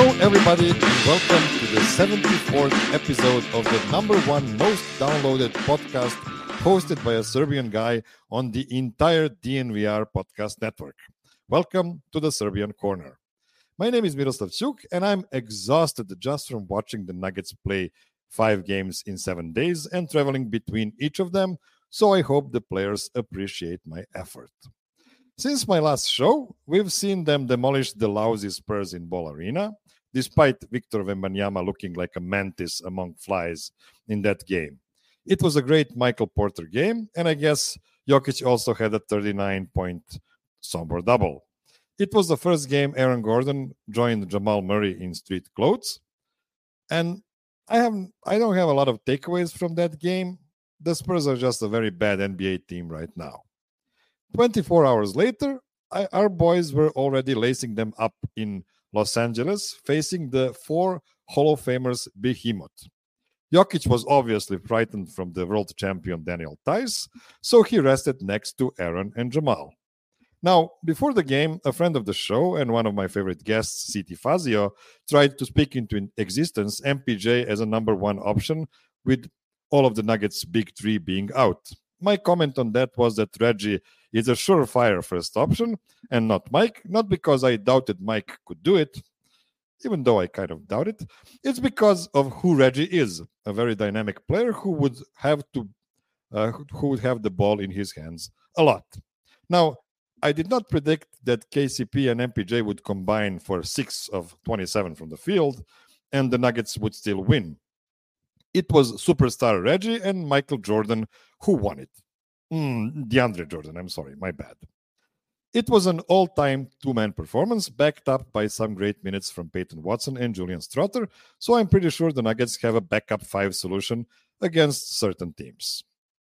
everybody, and welcome to the 74th episode of the number one most downloaded podcast hosted by a Serbian guy on the entire DNVR podcast network. Welcome to the Serbian Corner. My name is Miroslav Ćuk, and I'm exhausted just from watching the Nuggets play 5 games in 7 days and traveling between each of them, so I hope the players appreciate my effort. Since my last show, we've seen them demolish the lousy Spurs in Ball Arena, despite Victor Wembanyama looking like a mantis among flies in that game. It was a great Michael Porter game, and I guess Jokic also had a 39-point somber double. It was the first game Aaron Gordon joined Jamal Murray in street clothes, and I don't have a lot of takeaways from that game. The Spurs are just a very bad NBA team right now. 24 hours later, our boys were already lacing them up in Los Angeles, facing the 4 Hall of Famers behemoth. Jokic was obviously frightened from the world champion Daniel Theis, so he rested next to Aaron and Jamal. Now, before the game, a friend of the show and one of my favorite guests, Siti Fazio, tried to speak into existence MPJ as a number one option, with all of the Nuggets' big three being out. My comment on that was that Reggie is a surefire first option and not Mike, not because I doubted Mike could do it, even though I kind of doubt it. It's because of who Reggie is, a very dynamic player who would have the ball in his hands a lot. Now, I did not predict that KCP and MPJ would combine for 6 of 27 from the field, and the Nuggets would still win. It was superstar Reggie and Michael Jordan who won it. DeAndre Jordan, I'm sorry, my bad. It was an all-time two-man performance backed up by some great minutes from Peyton Watson and Julian Stroughter, so I'm pretty sure the Nuggets have a backup 5 solution against certain teams.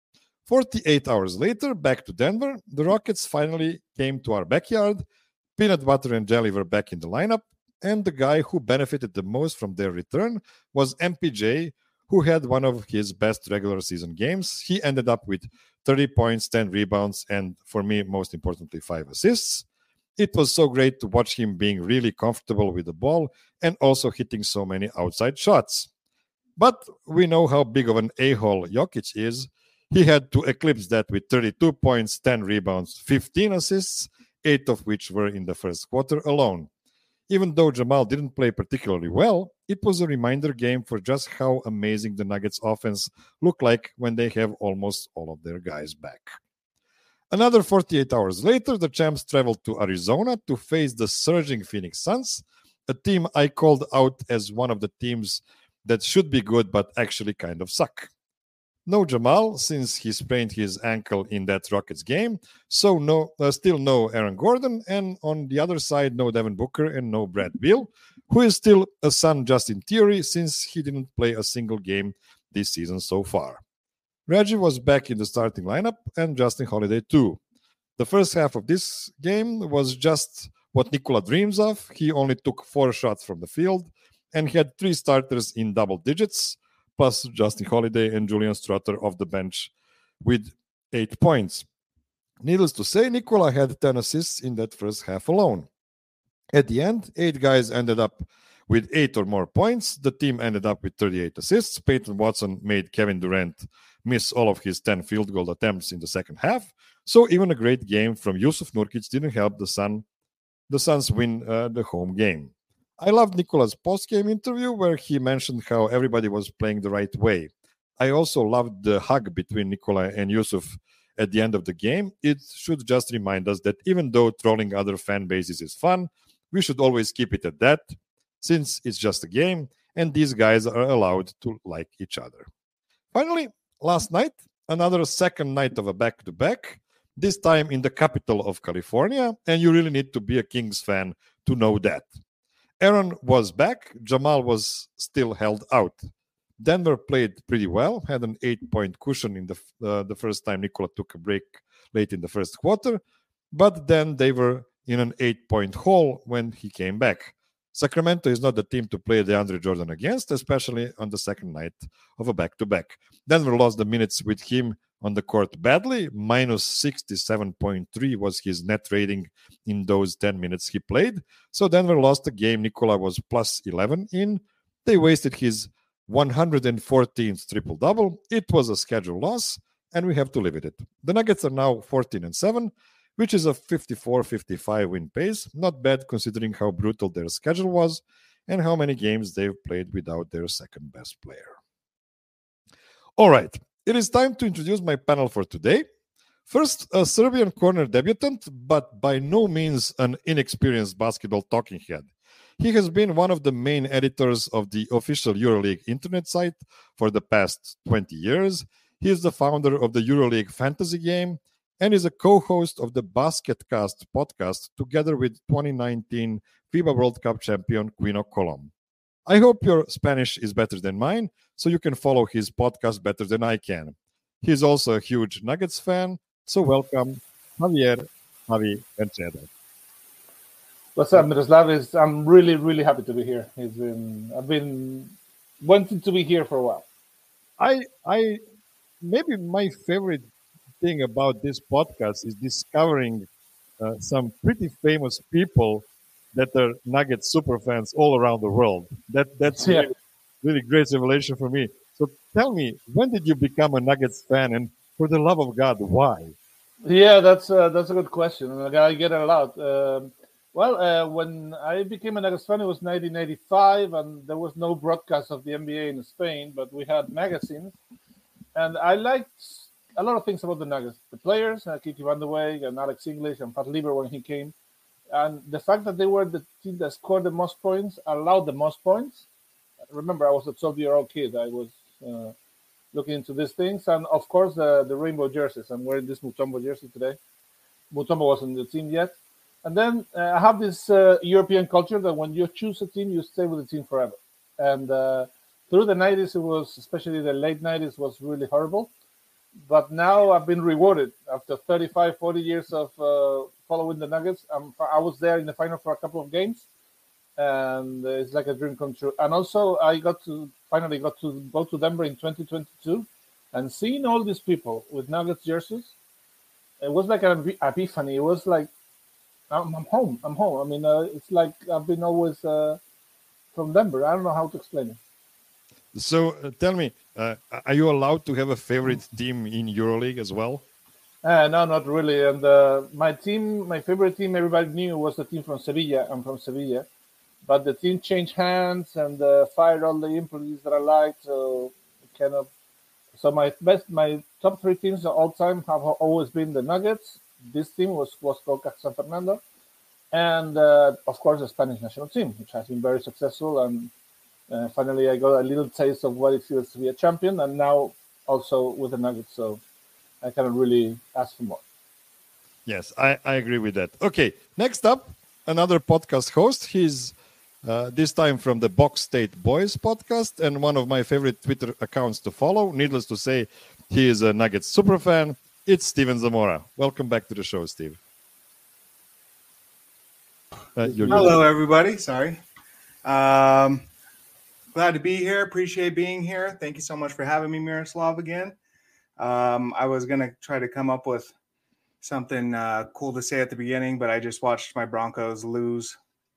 48 hours later, back to Denver, the Rockets finally came to our backyard. Peanut butter and jelly were back in the lineup, and the guy who benefited the most from their return was MPJ, who had one of his best regular season games. He ended up with 30 points, 10 rebounds, and for me, most importantly, 5 assists. It was so great to watch him being really comfortable with the ball and also hitting so many outside shots. But we know how big of an a-hole Jokic is. He had to eclipse that with 32 points, 10 rebounds, 15 assists, 8 of which were in the first quarter alone. Even though Jamal didn't play particularly well, it was a reminder game for just how amazing the Nuggets offense look like when they have almost all of their guys back. Another 48 hours later, the champs traveled to Arizona to face the surging Phoenix Suns, a team I called out as one of the teams that should be good but actually kind of suck. No Jamal, since he sprained his ankle in that Rockets game, so still no Aaron Gordon, and on the other side, no Devin Booker and no Brad Beal, who is still a Sun just in theory, since he didn't play a single game this season so far. Reggie was back in the starting lineup, and Justin Holiday too. The first half of this game was just what Nikola dreams of. He only took 4 shots from the field, and he had 3 starters in double digits, plus Justin Holiday and Julian Stroughter off the bench with 8 points. Needless to say, Nikola had 10 assists in that first half alone. At the end, 8 guys ended up with 8 or more points. The team ended up with 38 assists. Peyton Watson made Kevin Durant miss all of his 10 field goal attempts in the second half. So even a great game from Jusuf Nurkic didn't help the Suns win the home game. I loved Nikola's post-game interview where he mentioned how everybody was playing the right way. I also loved the hug between Nikola and Jusuf at the end of the game. It should just remind us that even though trolling other fan bases is fun, we should always keep it at that, since it's just a game and these guys are allowed to like each other. Finally, last night, another second night of a back-to-back, this time in the capital of California, and you really need to be a Kings fan to know that. Aaron was back. Jamal was still held out. Denver played pretty well, had an 8-point cushion in the first time Nikola took a break late in the first quarter, but then they were in an 8-point hole when he came back. Sacramento is not the team to play DeAndre Jordan against, especially on the second night of a back-to-back. Denver lost the minutes with him on the court badly. Minus 67.3 was his net rating in those 10 minutes he played. So Denver lost the game. Nikola was plus 11 in. They wasted his 114th triple-double. It was a schedule loss, and we have to live with it. The Nuggets are now 14-7, which is a 54-55 win pace. Not bad considering how brutal their schedule was and how many games they've played without their second best player. All right, it is time to introduce my panel for today. First, a Serbian corner debutant, but by no means an inexperienced basketball talking head. He has been one of the main editors of the official EuroLeague internet site for the past 20 years. He is the founder of the EuroLeague fantasy game and is a co-host of the BasketCast podcast together with 2019 FIBA World Cup champion Quino Colom. I hope your Spanish is better than mine, so you can follow his podcast better than I can. He's also a huge Nuggets fan, so welcome, Javier Javi Enchedo. What's up, Miroslav? I'm really, really happy to be here. I've been wanting to be here for a while. I maybe my favorite thing about this podcast is discovering some pretty famous people that are Nuggets super fans all around the world. That's really great revelation for me. So tell me, when did you become a Nuggets fan, and for the love of God, why? Yeah, that's a good question, and I get it a lot. When I became a Nuggets fan, it was 1985, and there was no broadcast of the NBA in Spain, but we had magazines, and I liked a lot of things about the Nuggets. The players, Kiki Van der Weyck and Alex English and Pat Lieber when he came, and the fact that they were the team that scored the most points, allowed the most points. Remember, I was a 12-year-old kid. I was looking into these things, and of course, the rainbow jerseys. I'm wearing this Mutombo jersey today. Mutombo wasn't the team yet. And then I have this European culture that when you choose a team, you stay with the team forever. And through the 90s, it was, especially the late 90s, was really horrible. But now I've been rewarded after 35, 40 years of following the Nuggets. I was there in the final for a couple of games, and it's like a dream come true. And also, I finally got to go to Denver in 2022, and seeing all these people with Nuggets jerseys, it was like an epiphany. It was like, I'm home. I mean, it's like I've been always from Denver. I don't know how to explain it. So tell me, are you allowed to have a favorite team in EuroLeague as well? No, not really. And my favorite team, everybody knew was the team from Sevilla. I'm from Sevilla. But the team changed hands and fired all the employees that I liked. So my top three teams of all time have always been the Nuggets. This team was called San Fernando. And, of course, the Spanish national team, which has been very successful. And finally, I got a little taste of what it feels to be a champion. And now also with the Nuggets. So I cannot really ask for more. Yes, I agree with that. Okay, next up, another podcast host. He's this time from the Box State Boys podcast and one of my favorite Twitter accounts to follow. Needless to say, he is a Nuggets super fan. It's Steven Zamora. Welcome back to the show, Steve. Hello, everybody. Sorry. Glad to be here. Appreciate being here. Thank you so much for having me, Miroslav, again. I was going to try to come up with something cool to say at the beginning, but I just watched my Broncos lose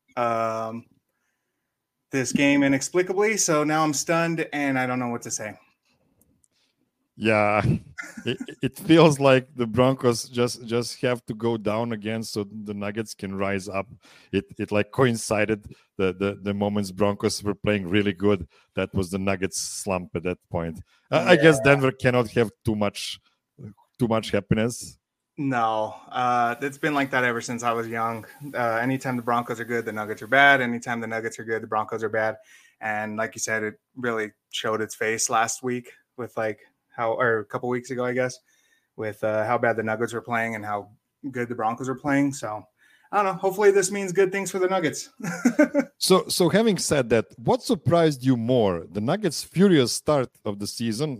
this game inexplicably. So now I'm stunned and I don't know what to say. Yeah, it feels like the Broncos just have to go down again so the Nuggets can rise up. It like coincided the moments Broncos were playing really good. That was the Nuggets slump at that point. I guess Denver cannot have too much happiness. No, it's been like that ever since I was young. Anytime the Broncos are good, the Nuggets are bad. Anytime the Nuggets are good, the Broncos are bad. And like you said, it really showed its face last week with or a couple weeks ago, I guess, with how bad the Nuggets were playing and how good the Broncos are playing. So I don't know. Hopefully this means good things for the Nuggets. So having said that, what surprised you more? The Nuggets' furious start of the season,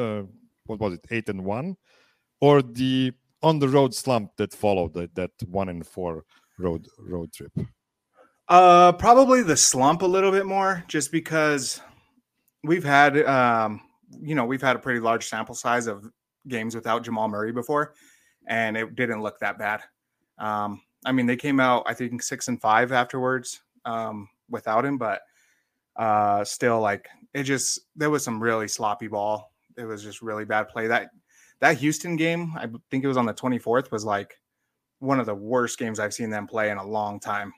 8-1, or the on the road slump that followed that 1-4 road trip? Probably the slump a little bit more, just because we've had a pretty large sample size of games without Jamal Murray before, and it didn't look that bad. I mean, they came out, I think, 6-5 afterwards without him, but still, like, there was some really sloppy ball. It was just really bad play. That Houston game, I think it was on the 24th, was like one of the worst games I've seen them play in a long time.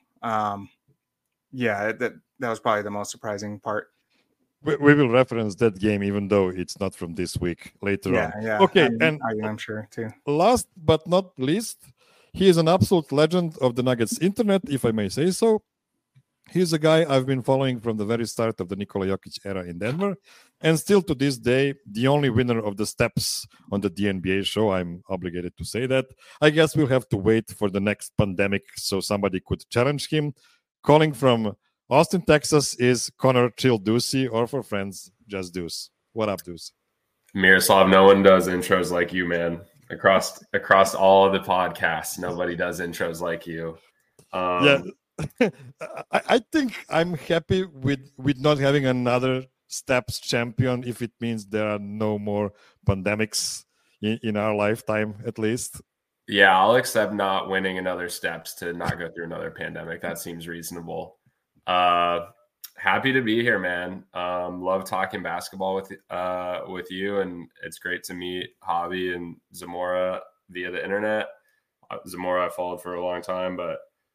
That was probably the most surprising part. We will reference that game, even though it's not from this week, later on. Yeah. Okay, I'm sure too. Last but not least, he is an absolute legend of the Nuggets internet, if I may say so. He's a guy I've been following from the very start of the Nikola Jokic era in Denver, and still to this day, the only winner of the steps on the DNBA show. I'm obligated to say that. I guess we'll have to wait for the next pandemic so somebody could challenge him. Calling from Austin, Texas is Connor Chill Ducey, or for friends, just Deuce. What up, Deuce? Miroslav, no one does intros like you, man. Across all of the podcasts, nobody does intros like you. I think I'm happy with not having another steps champion if it means there are no more pandemics in our lifetime, at least. Yeah, I'll accept not winning another steps to not go through another pandemic. That seems reasonable. Happy to be here, man. Love talking basketball with you, and it's great to meet Javi and Zamora via the internet. Zamora I followed for a long time, but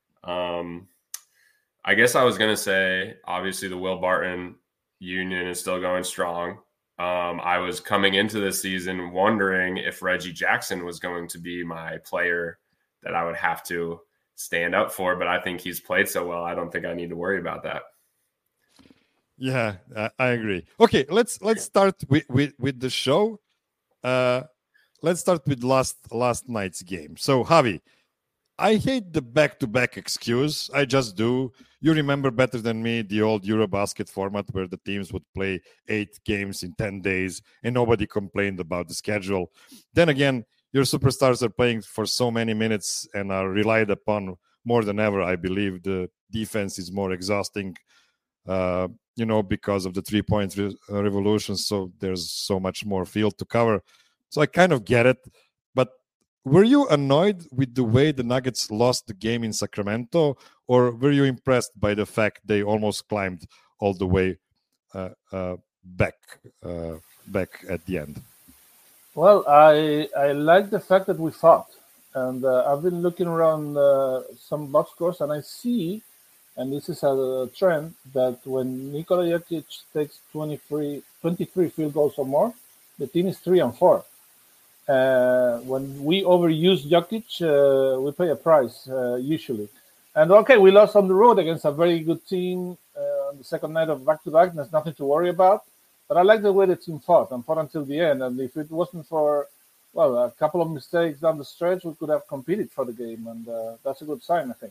I guess I was going to say, obviously the Will Barton union is still going strong. I was coming into this season wondering if Reggie Jackson was going to be my player that I would have to stand up for, but I think he's played so well, I don't think I need to worry about that. Yeah, I agree. Okay, let's start with the show. Let's start with last night's game. So, Javi, I hate the back-to-back excuse. I just do. You remember better than me the old Eurobasket format where the teams would play 8 games in 10 days and nobody complained about the schedule. Then again, your superstars are playing for so many minutes and are relied upon more than ever. I believe the defense is more exhausting, because of the 3-point revolution. So there's so much more field to cover. So I kind of get it. But were you annoyed with the way the Nuggets lost the game in Sacramento, or were you impressed by the fact they almost climbed all the way back at the end? Well, I like the fact that we fought, and I've been looking around some box scores, and I see, and this is a trend, that when Nikola Jokic takes 23 field goals or more, the team is 3-4. When we overuse Jokic, we pay a price usually. And okay, we lost on the road against a very good team on the second night of back-to-back. There's nothing to worry about. But I like the way the team fought and fought until the end. And if it wasn't for, a couple of mistakes down the stretch, we could have competed for the game. And that's a good sign, I think.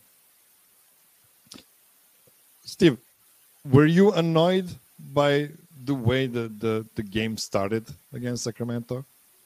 Steve, were you annoyed by the way the game started against Sacramento?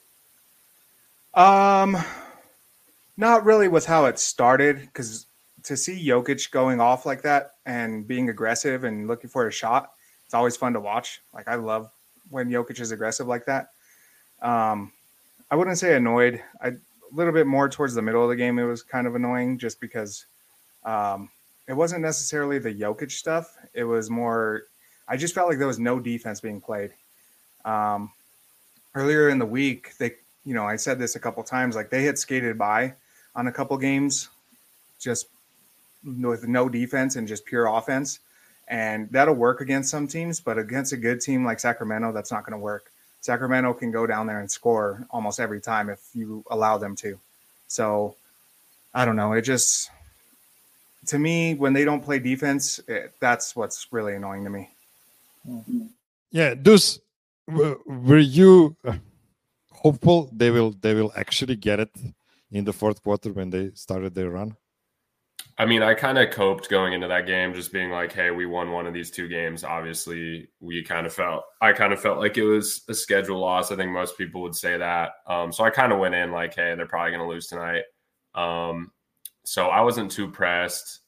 Not really with how it started, because to see Jokic going off like that and being aggressive and looking for a shot, it's always fun to watch. Like, I love when Jokic is aggressive like that. I wouldn't say annoyed. A little bit more towards the middle of the game, it was kind of annoying just because it wasn't necessarily the Jokic stuff. It was more, I just felt like there was no defense being played. Earlier in the week, I said this a couple times, like they had skated by on a couple games just with no defense and just pure offense. And that'll work against some teams, but against a good team like Sacramento, that's not going to work. Sacramento can go down there and score almost every time if you allow them to. So I don't know. It just, to me, when they don't play defense, that's what's really annoying to me. Yeah. Were you hopeful they will actually get it in the fourth quarter when they started their run? I mean, I kind of coped going into that game, just being like, hey, we won one of these 2 games. Obviously, I kind of felt like it was a schedule loss. I think most people would say that. So I kind of went in like, hey, they're probably going to lose tonight. So I wasn't too pressed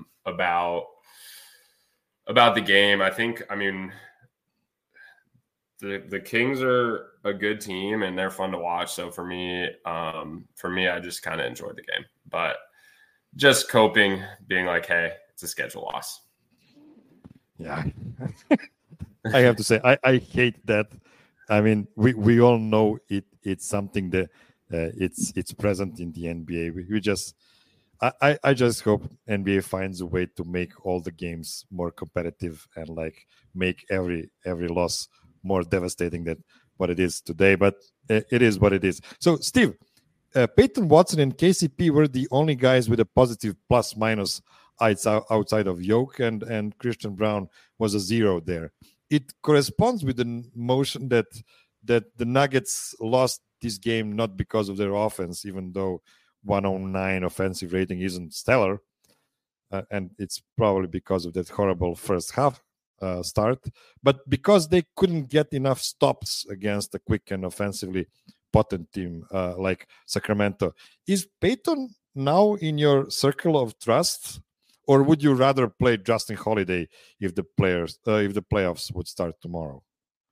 about the game. I mean, the Kings are a good team and they're fun to watch. So for me, I just kind of enjoyed the game, but just coping, being like, hey, it's a schedule loss. Yeah. I have to say, I hate that. I mean, we all know it's something that it's present in the NBA. We just I just hope NBA finds a way to make all the games more competitive and like make every loss more devastating than what it is today. But it is what it is. So, Steve, Peyton Watson and KCP were the only guys with a positive plus minus outside of Yoke, and Christian Brown was a 0 there. It corresponds with the motion that the Nuggets lost this game not because of their offense, even though 109 offensive rating isn't stellar, and it's probably because of that horrible first half start, but because they couldn't get enough stops against a quick and offensively potent team like Sacramento. Is Peyton now in your circle of trust, or would you rather play Justin Holiday if the playoffs would start tomorrow?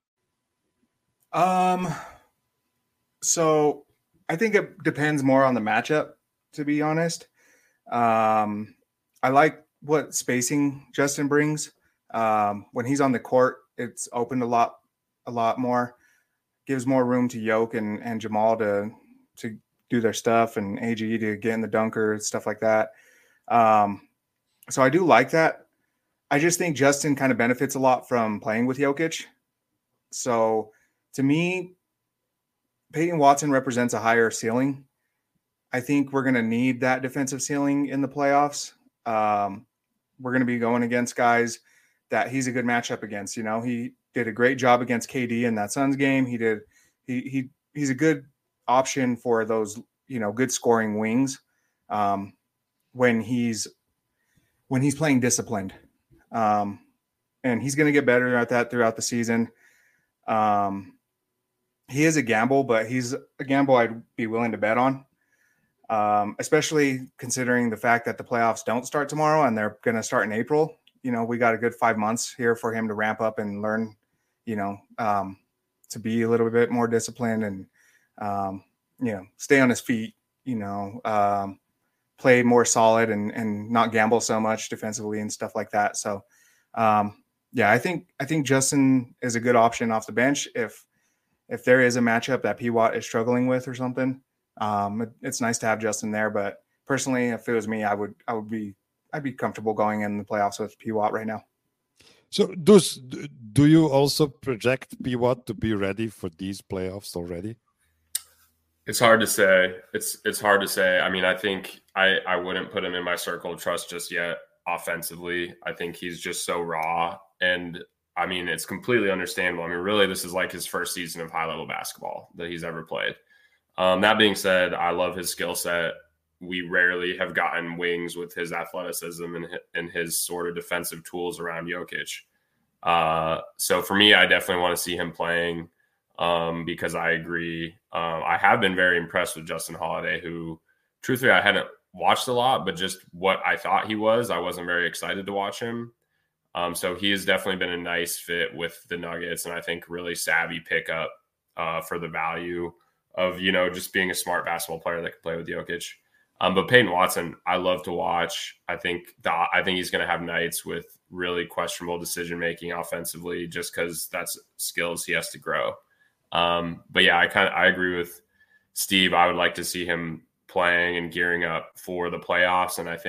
So I think it depends more on the matchup, to be honest. I like what spacing Justin brings. When he's on the court, it's opened a lot more, gives more room to Yoke and Jamal to do their stuff, and AG to get in the dunker, stuff like that. So I do like that. I just think Justin kind of benefits a lot from playing with Jokic. So to me, Peyton Watson represents a higher ceiling. I think we're going to need that defensive ceiling in the playoffs. We're going to be going against guys that he's a good matchup against. You know, he did a great job against KD in that Suns game. He's a good option for those, you know, good scoring wings when he's playing disciplined. And he's going to get better at that throughout the season. He is a gamble, but he's a gamble I'd be willing to bet on, especially considering the fact that the playoffs don't start tomorrow and they're going to start in April. You know, we got a good 5 months here for him to ramp up and learn, you know, to be a little bit more disciplined and, you know, stay on his feet, you know, play more solid and not gamble so much defensively and stuff like that. So, yeah, I think Justin is a good option off the bench if there is a matchup that P-Watt is struggling with or something. It's nice to have Justin there, but personally, if it was me, I'd be comfortable going in the playoffs with P-Watt right now. So, do you also project P-Watt to be ready for these playoffs already? It's hard to say. It's hard to say. I mean, I think I wouldn't put him in my circle of trust just yet. Offensively, I think he's just so raw, and I mean, it's completely understandable. I mean, really, this is like his first season of high-level basketball that he's ever played. That being said, I love his skill set. We rarely have gotten wings with his athleticism and his sort of defensive tools around Jokic. So for me, I definitely want to see him playing because I agree. I have been very impressed with Justin Holiday, who, truthfully, I hadn't watched a lot, but just what I thought he was, I wasn't very excited to watch him. So he has definitely been a nice fit with the Nuggets, and I think really savvy pickup for the value of, you know, just being a smart basketball player that can play with Jokic. But Peyton Watson, I love to watch. I think he's going to have nights with really questionable decision making offensively, just because that's skills he has to grow. But yeah, I agree with Steve. I would like to see him playing and gearing up for the playoffs, and I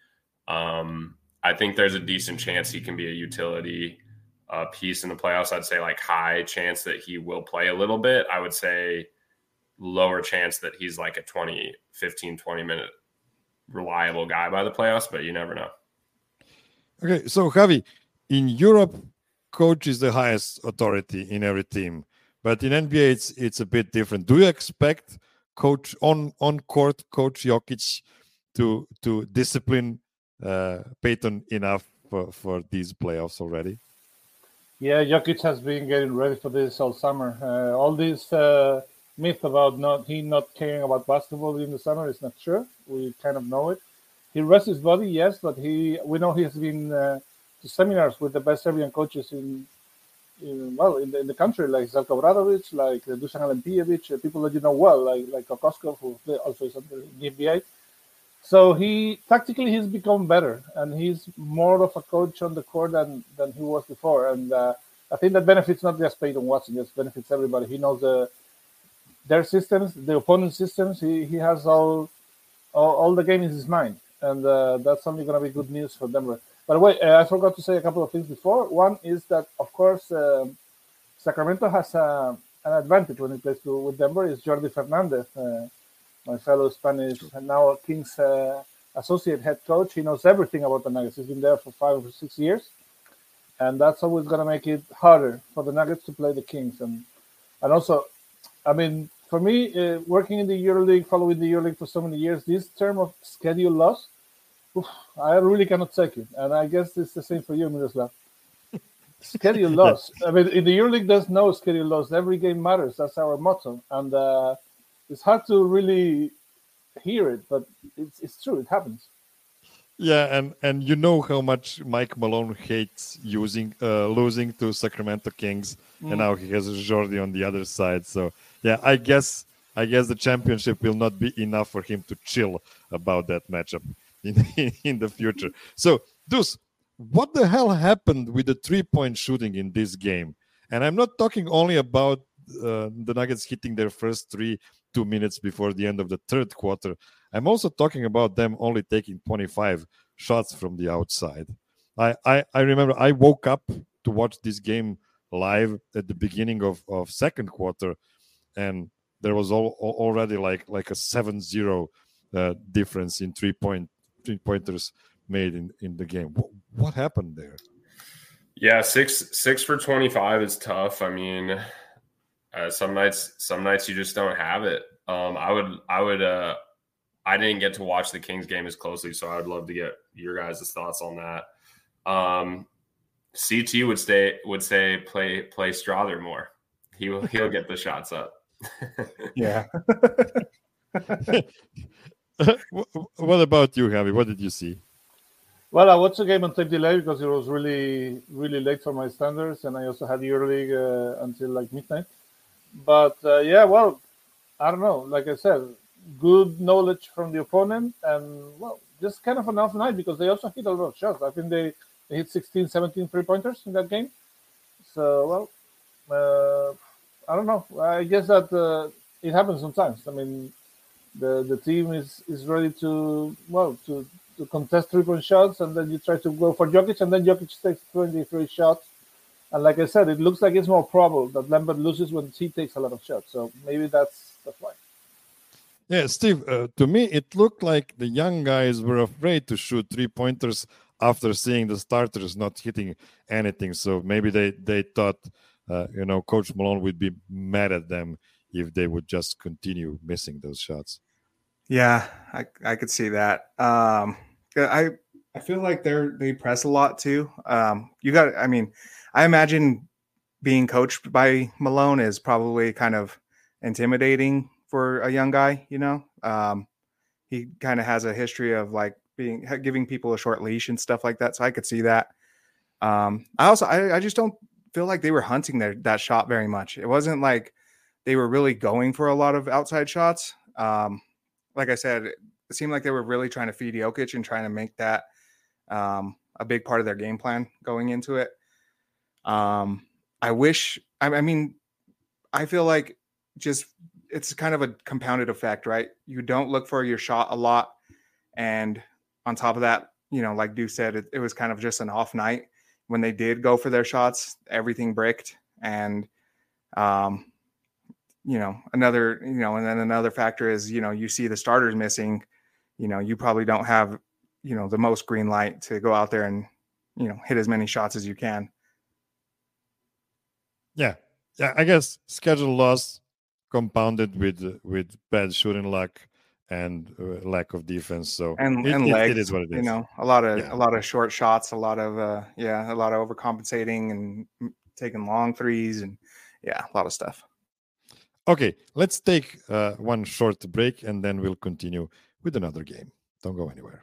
think there's a decent chance he can be a utility piece in the playoffs. I'd say like high chance that he will play a little bit. I would say lower chance that he's like a 20 minute reliable guy by the playoffs, but you never know. Okay, so Javi, in Europe, coach is the highest authority in every team, but in NBA it's a bit different. Do you expect coach on court coach Jokic to discipline Peyton enough for these playoffs already? Yeah, Jokic has been getting ready for this all summer. All this myth about not caring about basketball in the summer is not true. We kind of know it. He rests his body, yes, but we know he has been to seminars with the best Serbian coaches in in the country, like Zelko Obradovic, like Dusan Alempijevic, people that you know well, like Kokoskov, who also is on the NBA. So he's become better, and he's more of a coach on the court than he was before. And I think that benefits not just Peyton Watson, just benefits everybody. He knows their systems, the opponent's systems. He has all the game in his mind, and that's only going to be good news for Denver. By the way, I forgot to say a couple of things before. One is that, of course, Sacramento has an advantage when he plays with Denver. Is Jordi Fernandez, my fellow Spanish, and now Kings associate head coach. He knows everything about the Nuggets. He's been there for 5 or 6 years, and that's always going to make it harder for the Nuggets to play the Kings. And also, I mean, for me, working in the EuroLeague, following the EuroLeague for so many years, this term of schedule loss, I really cannot take it. And I guess it's the same for you, Miroslav. Schedule loss. I mean, in the EuroLeague, there's no schedule loss. Every game matters. That's our motto. And it's hard to really hear it, but it's true. It happens. Yeah, and you know how much Mike Malone hates losing to Sacramento Kings, and now he has Jordi on the other side. So yeah, I guess the championship will not be enough for him to chill about that matchup in the future. So, Deuce, what the hell happened with the 3-point shooting in this game? And I'm not talking only about the Nuggets hitting their first 3 2 minutes before the end of the third quarter. I'm also talking about them only taking 25 shots from the outside. I remember I woke up to watch this game live at the beginning of second quarter, and there was already like a 7-0 difference in three-pointers made in the game. What happened there? Yeah, 6 for 25 is tough. I mean, some nights you just don't have it. I didn't get to watch the Kings game as closely, so I would love to get your guys' thoughts on that. CT would say play Strother more. He'll get the shots up. Yeah. What about you, Javi? What did you see? Well, I watched the game on tape delay because it was really, really late for my standards, and I also had EuroLeague until like midnight. But yeah, well, I don't know. Like I said, good knowledge from the opponent, and well, just kind of an off night because they also hit a lot of shots. I think they hit 16, 17 3-pointers in that game. So, well, I don't know. I guess that it happens sometimes. I mean, the team is ready to contest 3-point shots, and then you try to go for Jokic, and then Jokic takes 23 shots. And like I said, it looks like it's more probable that Lambert loses when he takes a lot of shots. So maybe that's why. Yeah, Steve, to me, it looked like the young guys were afraid to shoot 3-pointers after seeing the starters not hitting anything. So maybe they thought, Coach Malone would be mad at them if they would just continue missing those shots. Yeah, I could see that. I feel like they press a lot too. I imagine being coached by Malone is probably kind of intimidating for a young guy. He kind of has a history of like giving people a short leash and stuff like that. So I could see that. I just don't feel like they were hunting that shot very much. It wasn't like they were really going for a lot of outside shots. Like I said, it seemed like they were really trying to feed Jokic and trying to make that a big part of their game plan going into it. I feel like just it's kind of a compounded effect, right? You don't look for your shot a lot. And on top of that, like Deuce said, it was kind of just an off night. When they did go for their shots, everything bricked. And, and then another factor is, you see the starters missing, you probably don't have, the most green light to go out there and, hit as many shots as you can. Yeah. I guess schedule loss compounded with bad shooting luck and lack of defense. So legs, it is what it is. A lot of short shots, a lot of overcompensating and taking long threes, and a lot of stuff. Okay, let's take one short break and then we'll continue with another game. Don't go anywhere.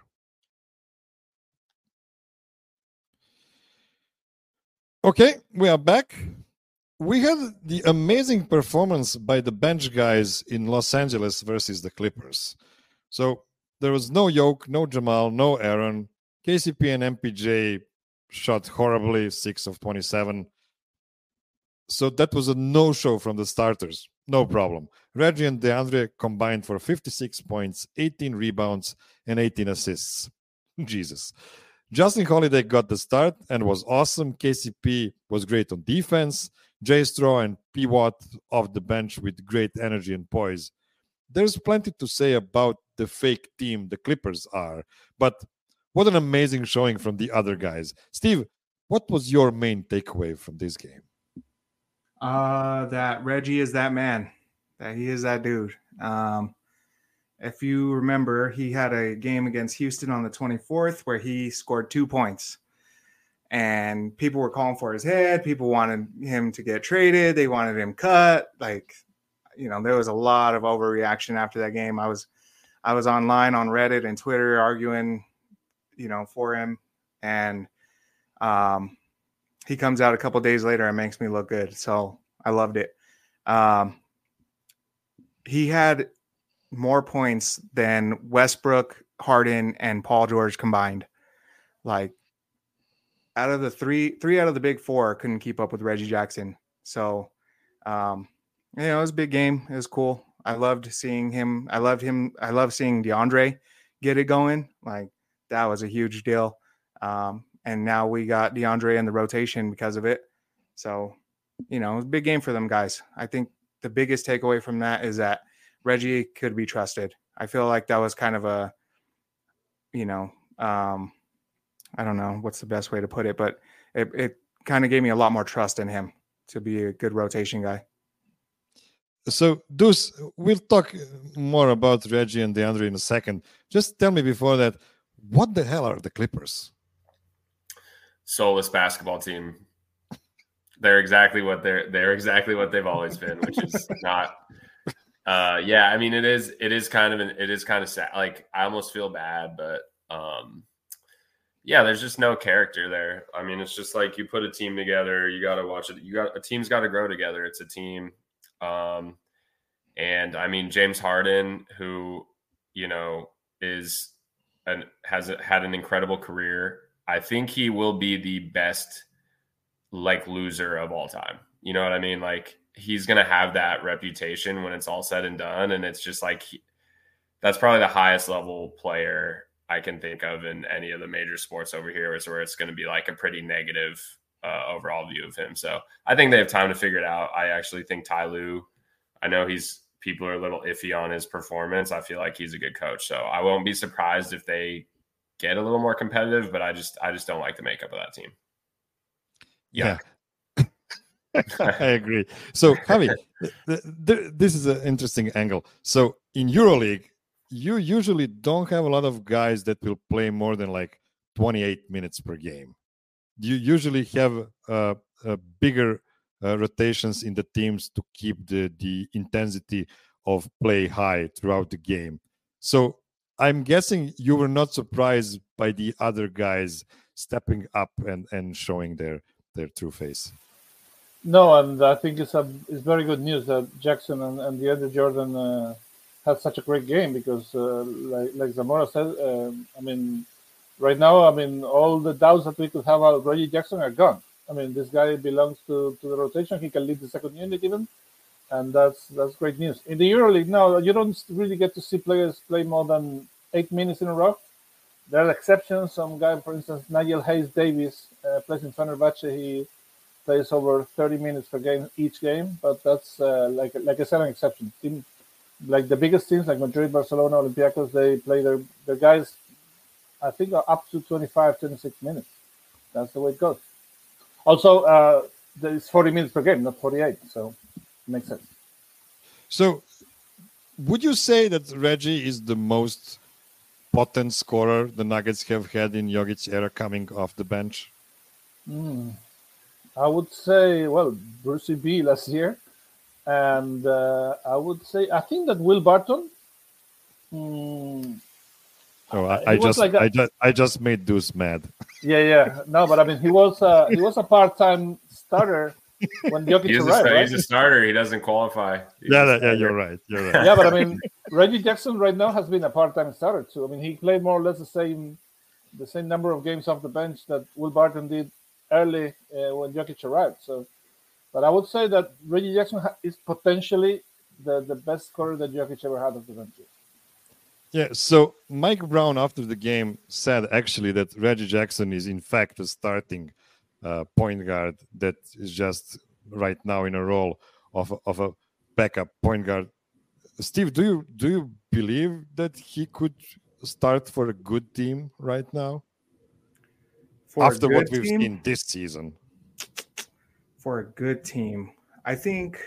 Okay, we are back. we had the amazing performance by the bench guys in Los Angeles versus the Clippers. So there was no Yoke, no Jamal, no Aaron. KCP and MPJ shot horribly, 6 of 27. So that was a no-show from the starters. No problem. Reggie and DeAndre combined for 56 points, 18 rebounds, and 18 assists. Jesus. Justin Holiday got the start and was awesome. KCP was great on defense. Jay Straw and P. Watt off the bench with great energy and poise. There's plenty to say about the fake team the Clippers are, but what an amazing showing from the other guys. Steve, what was your main takeaway from this game? That Reggie is that man, that he is that dude. If you remember, he had a game against Houston on the 24th where he scored 2 points. And people were calling for his head. People wanted him to get traded. They wanted him cut. Like, you know, there was a lot of overreaction after that game. I was online on Reddit and Twitter arguing, you know, for him. And he comes out a couple days later and makes me look good. So I loved it. He had more points than Westbrook, Harden, and Paul George combined. Like, out of the three out of the big four couldn't keep up with Reggie Jackson. So, you know, it was a big game. It was cool. I loved seeing him. I loved seeing DeAndre get it going. Like, that was a huge deal. And now we got DeAndre in the rotation because of it. So, you know, it was a big game for them guys. I think the biggest takeaway from that is that Reggie could be trusted. I feel like that was kind of a, you know, I don't know what's the best way to put it, but it kind of gave me a lot more trust in him to be a good rotation guy. So, Deuce, we'll talk more about Reggie and DeAndre in a second. Just tell me before that, what the hell are the Clippers? Soulless basketball team. They're exactly what they've always been, which is not. Yeah, I mean, it is kind of sad. Like, I almost feel bad, but yeah, there's just no character there. I mean, it's just like you put a team together, you got to watch it. A team's got to grow together. It's a team. And I mean, James Harden, who, you know, has had an incredible career. I think he will be the best, like, loser of all time. You know what I mean? Like, he's going to have that reputation when it's all said and done. And it's just like, that's probably the highest level player I can think of in any of the major sports over here, is where it's going to be like a pretty negative overall view of him. So I think they have time to figure it out. I actually think Ty Lue, I know people are a little iffy on his performance. I feel like he's a good coach. So I won't be surprised if they get a little more competitive, but I just don't like the makeup of that team. Yeah. I agree. So, Javi, this is an interesting angle. So in EuroLeague, you usually don't have a lot of guys that will play more than like 28 minutes per game. You usually have bigger rotations in the teams to keep the intensity of play high throughout the game. So I'm guessing you were not surprised by the other guys stepping up and showing their true face. No, and I think it's very good news that Jackson and DeAndre Jordan had such a great game, because like Zamora said, I mean, right now, I mean, all the doubts that we could have about Reggie Jackson are gone. I mean, this guy belongs to the rotation. He can lead the second unit even, and that's great news. In the EuroLeague, no, you don't really get to see players play more than 8 minutes in a row. There are exceptions. Some guy, for instance, Nigel Hayes-Davis, plays in Fenerbahce. He plays over 30 minutes per game each game, but that's like I said, an exception. Like the biggest teams, like Madrid, Barcelona, Olympiacos, they play their guys, I think, are up to 25, 26 minutes. That's the way it goes. Also, it's 40 minutes per game, not 48, so it makes sense. So would you say that Reggie is the most potent scorer the Nuggets have had in Jogic's era coming off the bench? I would say, well, Brucey B last year. And I would say, I think that Will Barton. I just made Deuce mad. Yeah. No, but I mean, he was a part-time starter when Jokic arrived. He's a starter. He doesn't qualify. Yeah, you're right. Yeah, but I mean, Reggie Jackson right now has been a part-time starter too. I mean, he played more or less the same number of games off the bench that Will Barton did early when Jokic arrived. So, but I would say that Reggie Jackson is potentially the best scorer that Jokic ever had off the bench. Yeah, so Mike Brown after the game said actually that Reggie Jackson is in fact a starting point guard that is just right now in a role of a backup point guard. Steve, do you believe that he could start for a good team right now? After what we've seen this season. For a good team, I think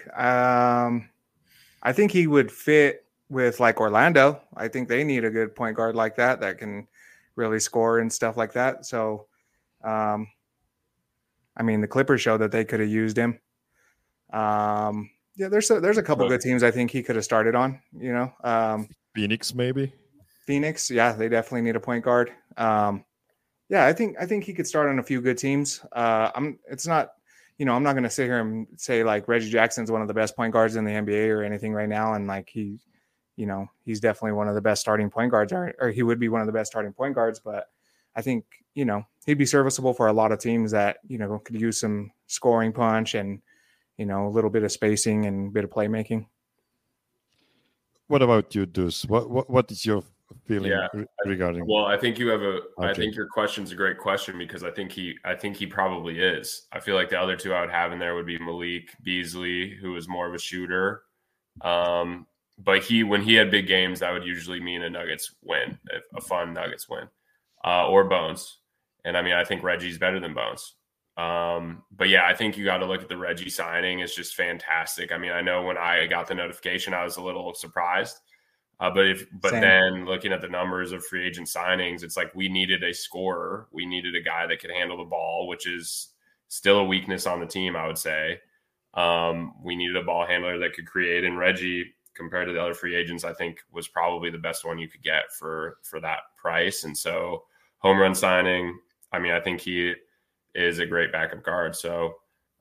he would fit with like Orlando. I think they need a good point guard like that can really score and stuff like that. So, I mean, the Clippers showed that they could have used him. Yeah, there's a couple good teams I think he could have started on. You know, Phoenix maybe. Phoenix, yeah, they definitely need a point guard. Yeah, I think he could start on a few good teams. It's not. You know, I'm not going to sit here and say like Reggie Jackson's one of the best point guards in the NBA or anything right now. And like he's definitely one of the best starting point guards or he would be one of the best starting point guards. But I think, you know, he'd be serviceable for a lot of teams that, you know, could use some scoring punch and, you know, a little bit of spacing and a bit of playmaking. What about you, Deuce? What is your feeling regarding? Well, I think you have I think your question's a great question because I think he probably is. I feel like the other two I would have in there would be Malik Beasley, who is more of a shooter. But when he had big games, that would usually mean a Nuggets win, a fun Nuggets win, or Bones. And I mean, I think Reggie's better than Bones. But yeah, I think you got to look at the Reggie signing. It's just fantastic. I mean, I know when I got the notification, I was a little surprised. But then looking at the numbers of free agent signings, it's like we needed a scorer. We needed a guy that could handle the ball, which is still a weakness on the team, I would say. We needed a ball handler that could create, and Reggie, compared to the other free agents, I think was probably the best one you could get for that price. And so home run signing, I think he is a great backup guard. So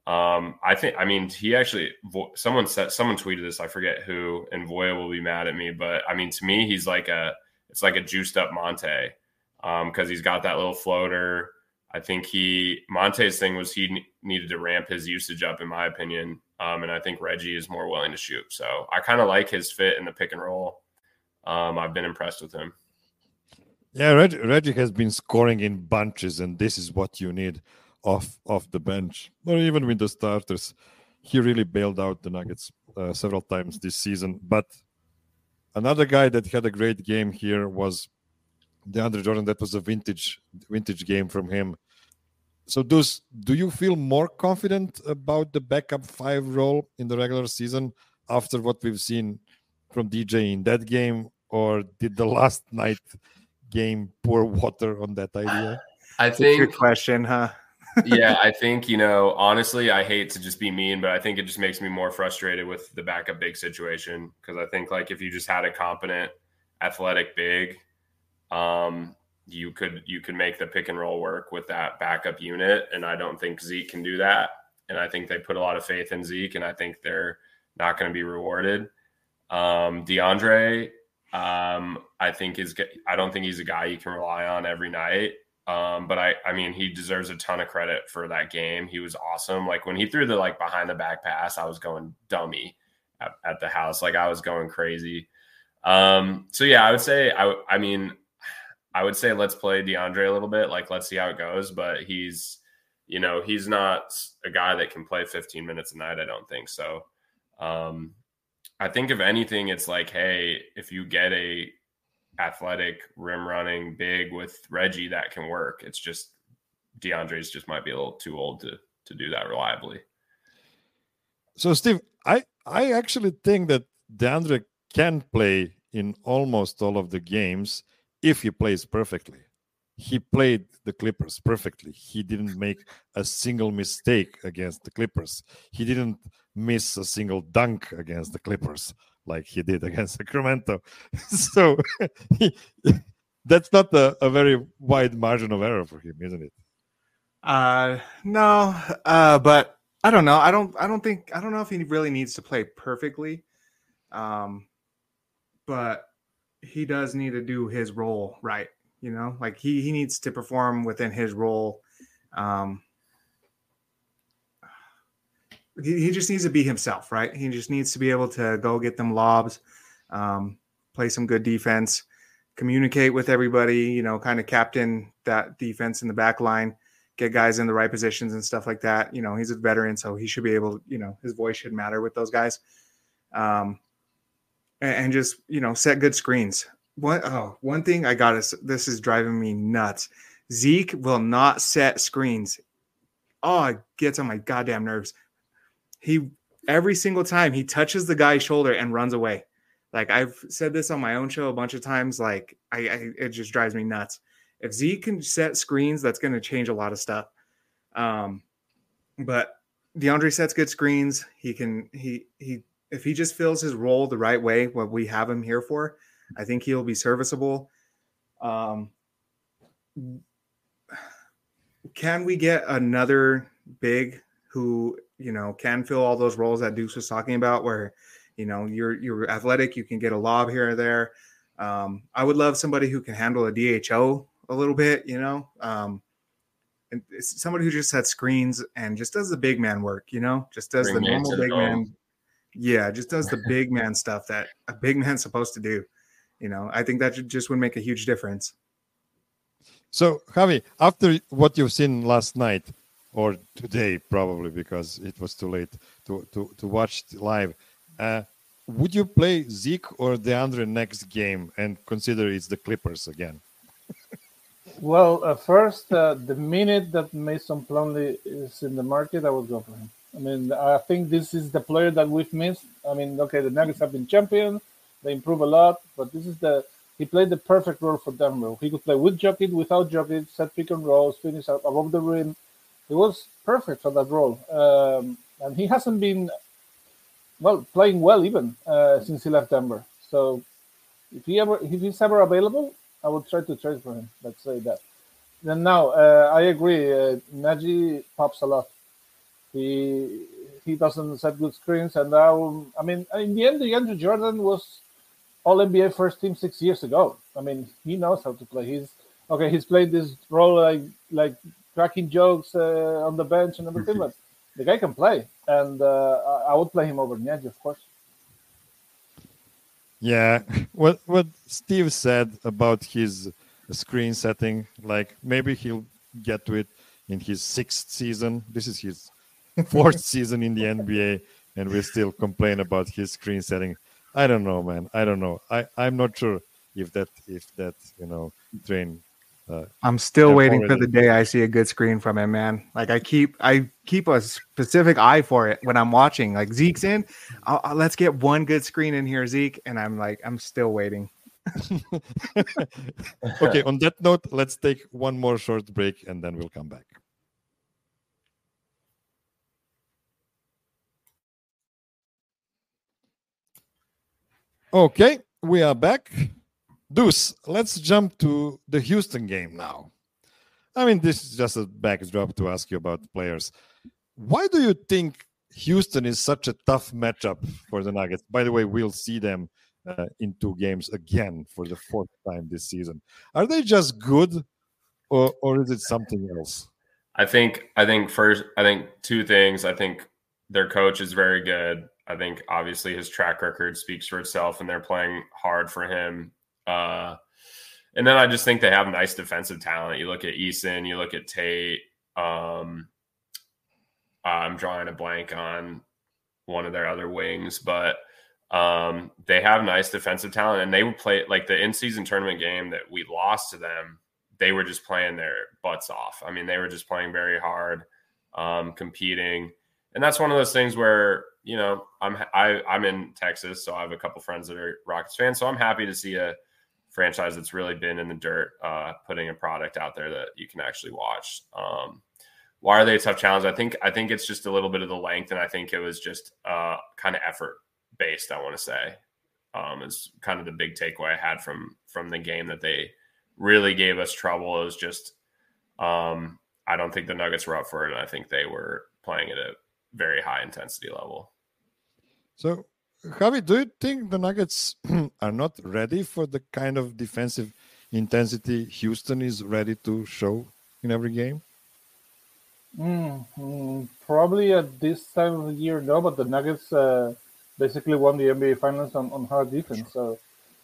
he actually, someone tweeted this, I forget who, and Voya will be mad at me, but I mean, to me, he's it's like a juiced up Monte, cause he's got that little floater. I think Monte's thing was he needed to ramp his usage up, in my opinion. And I think Reggie is more willing to shoot. So I kind of like his fit in the pick and roll. I've been impressed with him. Yeah, Reggie has been scoring in bunches, and this is what you need off the bench, or even with the starters. He really bailed out the Nuggets several times this season. But another guy that had a great game here was DeAndre Jordan. That was a vintage game from him. So do you feel more confident about the backup 5 role in the regular season after what we've seen from DJ in that game, or did the last night game pour water on that idea? I think good question, huh? Yeah, I think, honestly, I hate to just be mean, but I think it just makes me more frustrated with the backup big situation, because I think like if you just had a competent athletic big, you could make the pick and roll work with that backup unit. And I don't think Zeke can do that. And I think they put a lot of faith in Zeke, and I think they're not going to be rewarded. DeAndre, I don't think he's a guy you can rely on every night. But I mean, he deserves a ton of credit for that game. He was awesome. Like when he threw the behind the back pass, I was going dummy at the house. Like I was going crazy. So yeah, I would say, I would say let's play DeAndre a little bit. Like, let's see how it goes. But he's not a guy that can play 15 minutes a night. I don't think so. I think if anything, it's like, hey, if you get a athletic rim running big with Reggie, that can work. It's just DeAndre's just might be a little too old to do that reliably. So Steve, I actually think that DeAndre can play in almost all of the games if he plays perfectly. He played the Clippers perfectly. He didn't make a single mistake against the Clippers. He didn't miss a single dunk against the Clippers like he did against Sacramento. So that's not a very wide margin of error for him, isn't it? No, but I don't know. I don't know if he really needs to play perfectly. But he does need to do his role right. You know, like he needs to perform within his role. He just needs to be himself, right? He just needs to be able to go get them lobs, play some good defense, communicate with everybody, you know, kind of captain that defense in the back line, get guys in the right positions and stuff like that. You know, he's a veteran, so he should be able, you know, his voice should matter with those guys. And just, you know, set good screens. One thing I got is, this is driving me nuts. Zeke will not set screens. Oh, it gets on my goddamn nerves. Every single time he touches the guy's shoulder and runs away. Like, I've said this on my own show a bunch of times. Like, it just drives me nuts. If Zeke can set screens, that's going to change a lot of stuff. But DeAndre sets good screens. If he just fills his role the right way, what we have him here for, I think he'll be serviceable. Can we get another big who, you know, can fill all those roles that Deuce was talking about, where, you know, you're athletic, you can get a lob here or there. I would love somebody who can handle a DHO a little bit, you know, and it's somebody who just sets screens and just does the big man work, you know, just does the normal big man. Yeah, just does the big man stuff that a big man's supposed to do. You know, I think that just would make a huge difference. So, Javi, after what you've seen last night, or today probably because it was too late to watch live, would you play Zeke or DeAndre next game and consider it's the Clippers again? Well, first, the minute that Mason Plumlee is in the market, I would go for him. I mean, I think this is the player that we've missed. I mean, okay, the Nuggets have been champions. They improve a lot, but he played the perfect role for Denver. He could play with Jokic, without Jokic, set pick and rolls, finish above the rim. He was perfect for that role. And he hasn't been, playing well even since he left Denver. So if he's ever available, I would try to trade for him. Let's say that. Then now, I agree. Nagy pops a lot. He doesn't set good screens, and now, I mean, in the end, DeAndre Jordan was All NBA first team 6 years ago. I mean, he knows how to play. He's played this role like cracking jokes on the bench and everything, but the guy can play, and I would play him over Nagy, of course. Yeah, what Steve said about his screen setting, like maybe he'll get to it in his 6th season. This is his 4th season in the NBA, and we still complain about his screen setting. I don't know, man. I don't know. I'm not sure if that train. I'm still waiting for the day I see a good screen from him, man. Like I keep a specific eye for it when I'm watching. Like Zeke's in, let's get one good screen in here, Zeke, and I'm still waiting. Okay. On that note, let's take one more short break, and then we'll come back. Okay, we are back. Deuce, let's jump to the Houston game now. I mean, this is just a backdrop to ask you about players. Why do you think Houston is such a tough matchup for the Nuggets? By the way, we'll see them in 2 games again for the 4th time this season. Are they just good, or is it something else? I think 2 things. I think their coach is very good. I think obviously his track record speaks for itself, and they're playing hard for him. And then I just think they have nice defensive talent. You look at Eason, you look at Tate. I'm drawing a blank on one of their other wings, but they have nice defensive talent, and they would play like the in-season tournament game that we lost to them. They were just playing their butts off. I mean, they were just playing very hard, competing. And that's one of those things where, you know, I'm in Texas, so I have a couple friends that are Rockets fans. So I'm happy to see a franchise that's really been in the dirt, putting a product out there that you can actually watch. Why are they a tough challenge? I think it's just a little bit of the length, and I think it was just kind of effort based. I want to say is kind of the big takeaway I had from the game, that they really gave us trouble. It was just I don't think the Nuggets were up for it, and I think they were playing at very high intensity level. So, Javi, do you think the Nuggets are not ready for the kind of defensive intensity Houston is ready to show in every game? Probably at this time of the year, no, but the Nuggets basically won the NBA Finals on hard defense. So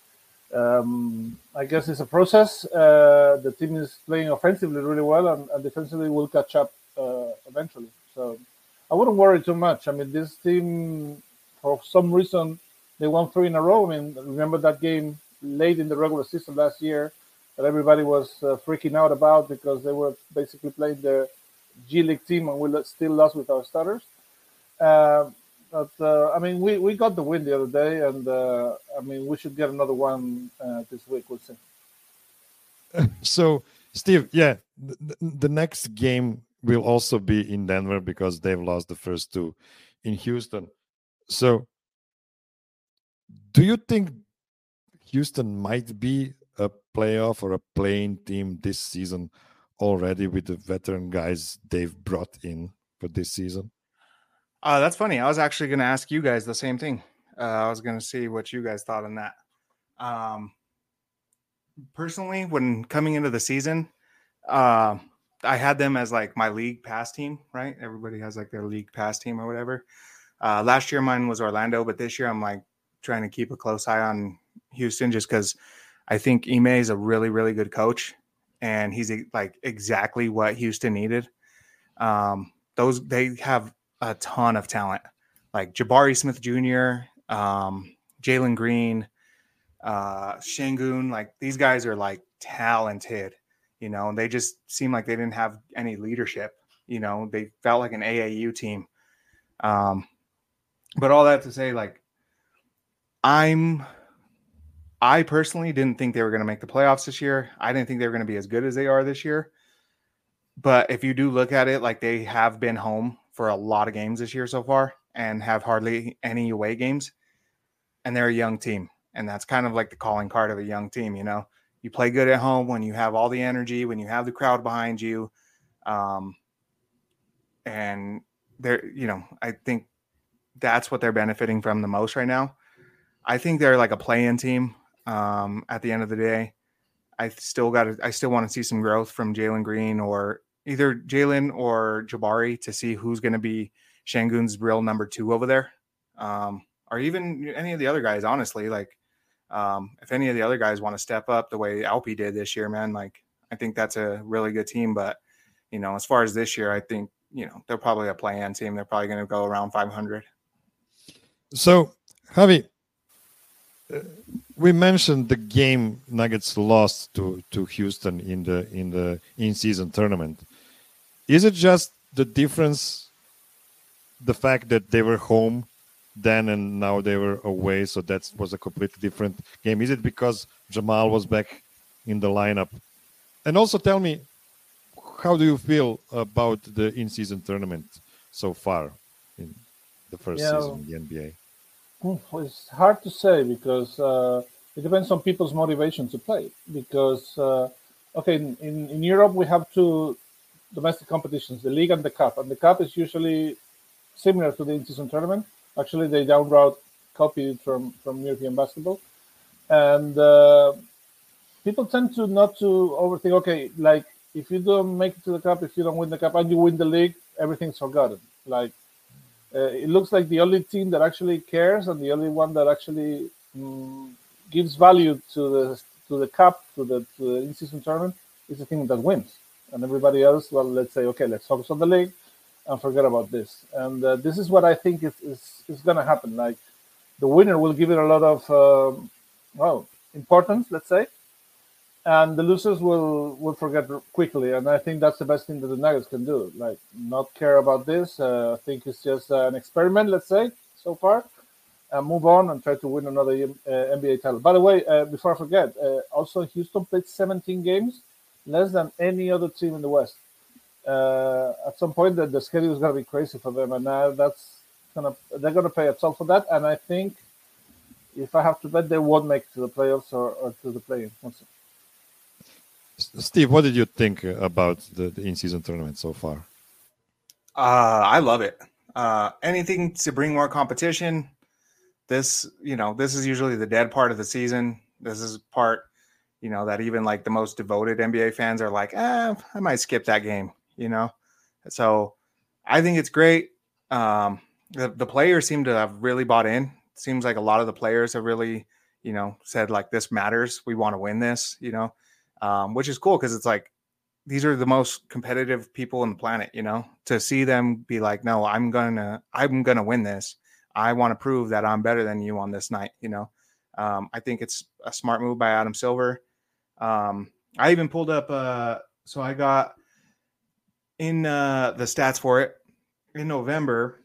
I guess it's a process. The team is playing offensively really well, and defensively will catch up eventually. So I wouldn't worry too much. I mean, this team, for some reason, they won 3 in a row. I mean, remember that game late in the regular season last year that everybody was freaking out about because they were basically playing the G League team and we still lost with our starters. But I mean, we got the win the other day, and I mean, we should get another one this week. We'll see. So, Steve, yeah, the next game will also be in Denver because they've lost the first 2 in Houston. So, do you think Houston might be a playoff or a playing team this season already with the veteran guys they've brought in for this season? That's funny. I was actually going to ask you guys the same thing. I was going to see what you guys thought on that. Personally, when coming into the season, I had them as like my league pass team, right? Everybody has like their league pass team or whatever. Last year mine was Orlando, but this year I'm like trying to keep a close eye on Houston just because I think Ime is a really, really good coach, and he's like exactly what Houston needed. They have a ton of talent, like Jabari Smith Jr., Jalen Green, Şengün. Like these guys are like talented, you know, and they just seem like they didn't have any leadership. You know, they felt like an AAU team. But all that to say, like, I personally didn't think they were going to make the playoffs this year. I didn't think they were going to be as good as they are this year. But if you do look at it, like they have been home for a lot of games this year so far and have hardly any away games. And they're a young team. And that's kind of like the calling card of a young team, you know. You play good at home when you have all the energy, when you have the crowd behind you. And they're, you know, I think that's what they're benefiting from the most right now. I think they're like a play-in team at the end of the day. I still want to see some growth from Jalen Green or either Jalen or Jabari to see who's going to be Şengün's real number 2 over there. Or even any of the other guys, honestly. Like, if any of the other guys want to step up the way Alpi did this year, man, like, I think that's a really good team. But, you know, as far as this year, I think, you know, they're probably a play-in team. They're probably going to go around 500. So, Javi, we mentioned the game Nuggets lost to Houston in the in-season tournament. Is it just the difference, the fact that they were home then and now they were away, so that was a completely different game? Is it because Jamal was back in the lineup? And also tell me, how do you feel about the in-season tournament so far in the first season in the NBA? It's hard to say because it depends on people's motivation to play. Because, okay, in Europe, we have 2 domestic competitions, the League and the Cup. And the Cup is usually similar to the in-season tournament. Actually, they down route copied from European basketball. And people tend to not to overthink, okay, like if you don't make it to the Cup, if you don't win the Cup and you win the League, everything's forgotten. Like, it looks like the only team that actually cares and the only one that actually gives value to the Cup, to the in-season tournament, is the team that wins. And everybody else, well, let's say, okay, let's focus on the League and forget about this. And this is what I think is going to happen. Like, the winner will give it a lot of, importance, let's say, and the losers will forget quickly. And I think that's the best thing that the Nuggets can do. Like, not care about this. I think it's just an experiment, let's say, so far. And move on and try to win another NBA title. By the way, before I forget, also Houston played 17 games, less than any other team in the West. At some point, the schedule is going to be crazy for them. And now they're going to pay a toll for that. And I think, if I have to bet, they won't make it to the playoffs or to the play-in. Steve, what did you think about the in-season tournament so far? I love it. Anything to bring more competition. This is usually the dead part of the season. This is part, that even like the most devoted NBA fans are like, I might skip that game, So I think it's great. The players seem to have really bought in. It seems like a lot of the players have really, said like, this matters. We want to win this, which is cool because it's like, these are the most competitive people on the planet, to see them be like, no, I'm gonna win this. I want to prove that I'm better than you on this night. I think it's a smart move by Adam Silver. I even pulled up, so I got in the stats for it in November.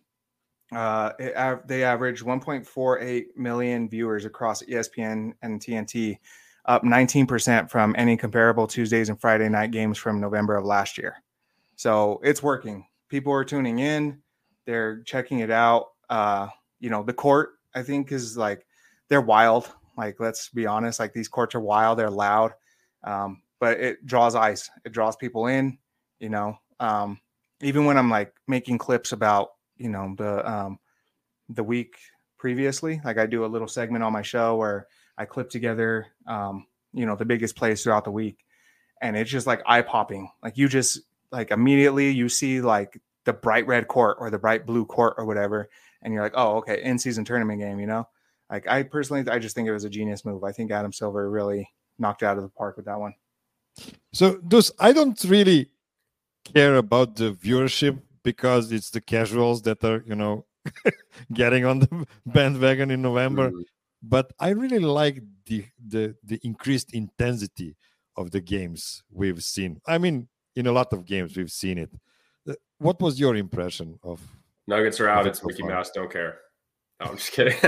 They averaged 1.48 million viewers across ESPN and TNT, up 19% from any comparable Tuesdays and Friday night games from November of last year. So it's working. People are tuning in. They're checking it out. The court, I think, is like, they're wild. Like, let's be honest, like these courts are wild. They're loud. But it draws eyes. It draws people in, even when I'm like making clips about, the week previously, like I do a little segment on my show where I clip together, the biggest plays throughout the week. And it's just like eye popping. Like you just like immediately you see like the bright red court or the bright blue court or whatever. And you're like, oh, okay, in-season tournament game, Like I just think it was a genius move. I think Adam Silver really knocked it out of the park with that one. So, I don't really care about the viewership because it's the casuals that are, getting on the bandwagon in November. Mm-hmm. But I really like the increased intensity of the games we've seen. I mean, in a lot of games we've seen it. What was your impression of? Nuggets are out. It's Mickey Mouse. Don't care. No, I'm just kidding.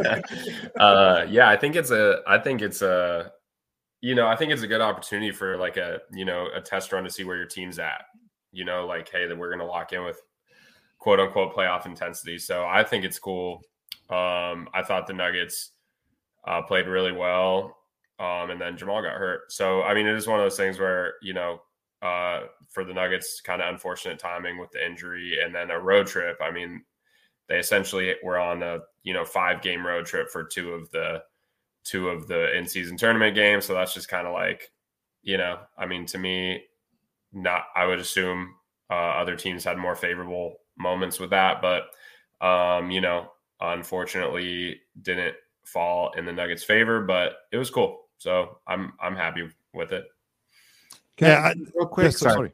I think it's a good opportunity for like a test run to see where your team's at. Like, hey, that we're going to lock in with quote unquote playoff intensity. So I think it's cool. I thought the Nuggets played really well. And then Jamal got hurt. So, I mean, it is one of those things where, for the Nuggets, kind of unfortunate timing with the injury and then a road trip. I mean, they essentially were on a 5-game road trip for two of the in-season tournament games. So that's just kind of like, I mean, to me, I would assume other teams had more favorable moments with that, but unfortunately didn't fall in the Nuggets' favor. But it was cool, so I'm happy with it. Real quick, sorry.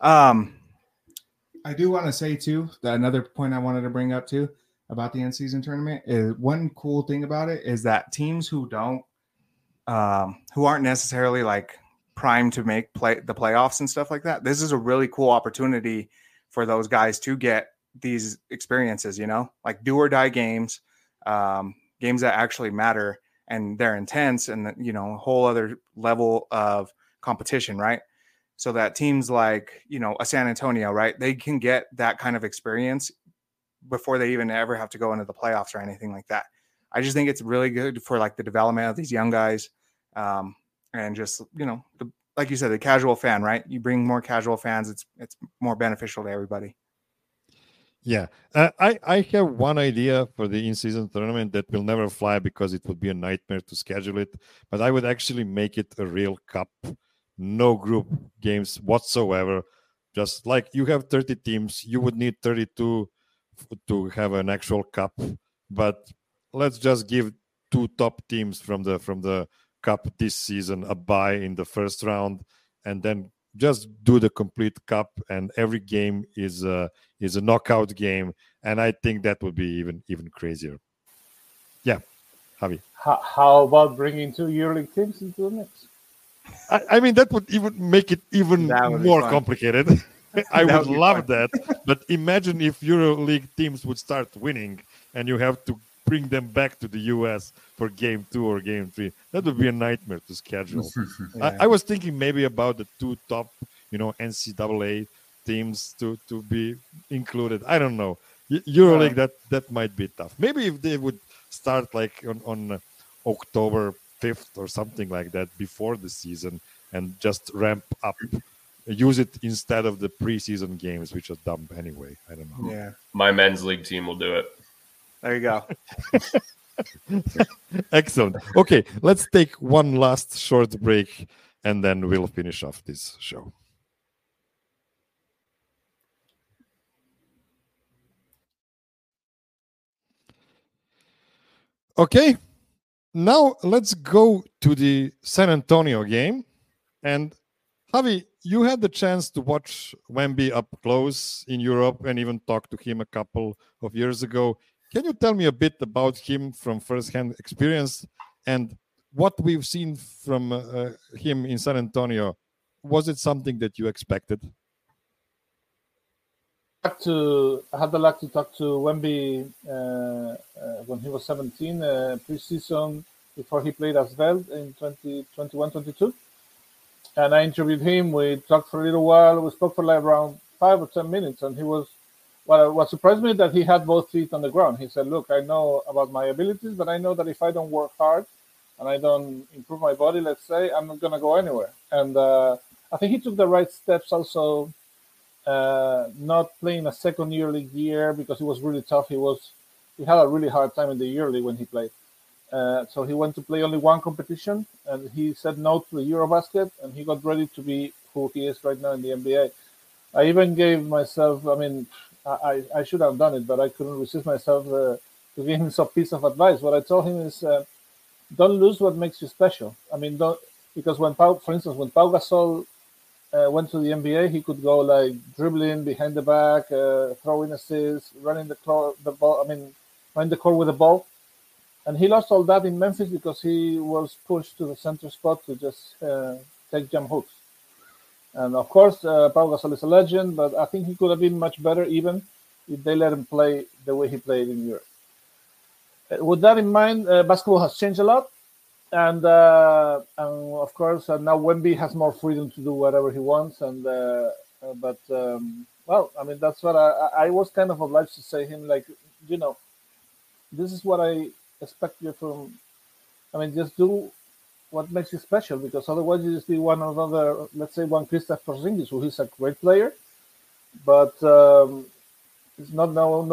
I do want to say too that another point I wanted to bring up too about the in-season tournament is one cool thing about it is that teams who aren't necessarily like primed to make the playoffs and stuff like that, this is a really cool opportunity for those guys to get these experiences, like do or die games, games that actually matter and they're intense and a whole other level of competition, right? So that teams like, a San Antonio, right, they can get that kind of experience before they even ever have to go into the playoffs or anything like that. I just think it's really good for like the development of these young guys. And just, like you said, the casual fan, right? You bring more casual fans. It's more beneficial to everybody. Yeah. I have one idea for the in-season tournament that will never fly because it would be a nightmare to schedule it. But I would actually make it a real cup. No group games whatsoever. Just like you have 30 teams, you would need 32 to have an actual cup. But let's just give 2 top teams from the cup this season a bye in the first round, and then just do the complete cup. And every game is a knockout game, and I think that would be even crazier. Yeah, Javi. How about bringing 2 EuroLeague teams into the mix? I mean, that would even make it even more complicated. I would love that. But imagine if EuroLeague teams would start winning and you have to bring them back to the US for game 2 or game 3. That would be a nightmare to schedule. Yeah. I was thinking maybe about the 2 top, NCAA teams to be included. I don't know. EuroLeague, that might be tough. Maybe if they would start like on October 5th or something like that before the season and just ramp up use it instead of the preseason games, which are dumb anyway. I don't know. Yeah. My men's league team will do it. There you go. Excellent. Okay, let's take one last short break and then we'll finish off this show. Okay, now let's go to the San Antonio game. And Javi, you had the chance to watch Wemby up close in Europe and even talk to him a couple of years ago. Can you tell me a bit about him from first-hand experience and what we've seen from him in San Antonio? Was it something that you expected? I had the luck to talk to Wemby when he was 17, pre-season before he played as Veld in 2021-22. And I interviewed him. We talked for a little while. We spoke for like around 5 or 10 minutes. And he was, what surprised me that he had both feet on the ground. He said, look, I know about my abilities, but I know that if I don't work hard and I don't improve my body, let's say, I'm not going to go anywhere. And I think he took the right steps also, not playing a second year league year because it was really tough. He had a really hard time in the year league when he played. So he went to play only one competition, and he said no to the Eurobasket, and he got ready to be who he is right now in the NBA. I even gave myself, I should have done it, but I couldn't resist myself to give him some piece of advice. What I told him is, don't lose what makes you special. Because for instance, when Pau Gasol went to the NBA, he could go like dribbling behind the back, throwing assists, running the court with the ball. And he lost all that in Memphis because he was pushed to the center spot to just take jump hooks. And of course, Pau Gasol is a legend, but I think he could have been much better even if they let him play the way he played in Europe. With that in mind, basketball has changed a lot. And of course, now Wemby has more freedom to do whatever he wants. That's what I was kind of obliged to say him, like, this is what I expect you from. Just do what makes you special, because otherwise you just be one Kristaps Porzingis, who is a great player, but it's not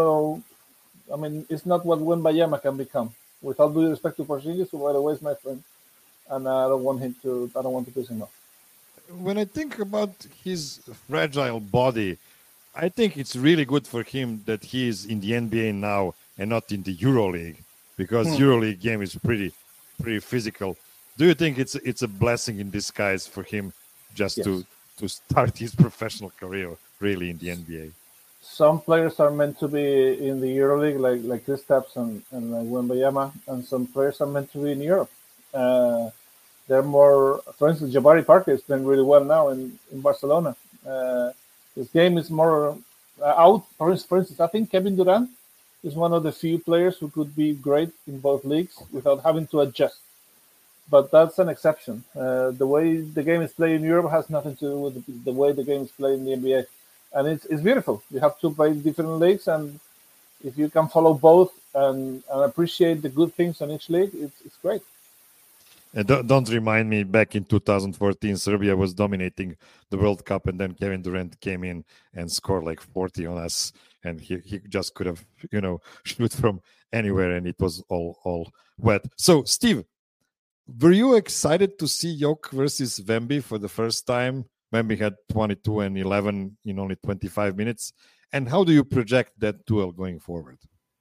it's not what Wembanyama can become. With all due respect to Porzingis, who by the way is my friend, and I don't want to piss him off. When I think about his fragile body, I think it's really good for him that he is in the NBA now and not in the EuroLeague, because EuroLeague game is pretty physical. Do you think it's a blessing in disguise for him just to start his professional career really in the NBA? Some players are meant to be in the EuroLeague, like Kristaps and like Wembanyama, and some players are meant to be in Europe. They're more, for instance, Jabari Parker is playing really well now in Barcelona. His game is more out. For instance, I think Kevin Durant is one of the few players who could be great in both leagues without having to adjust. But that's an exception. The way the game is played in Europe has nothing to do with the way the game is played in the NBA. And it's beautiful. You have to play different leagues, and if you can follow both and appreciate the good things in each league, it's great. And don't remind me, back in 2014, Serbia was dominating the World Cup, and then Kevin Durant came in and scored like 40 on us, and he just could have, shoot from anywhere, and it was all wet. So, Steve, were you excited to see Jokic versus Wemby for the first time? Wemby had 22 and 11 in only 25 minutes. And how do you project that duel going forward?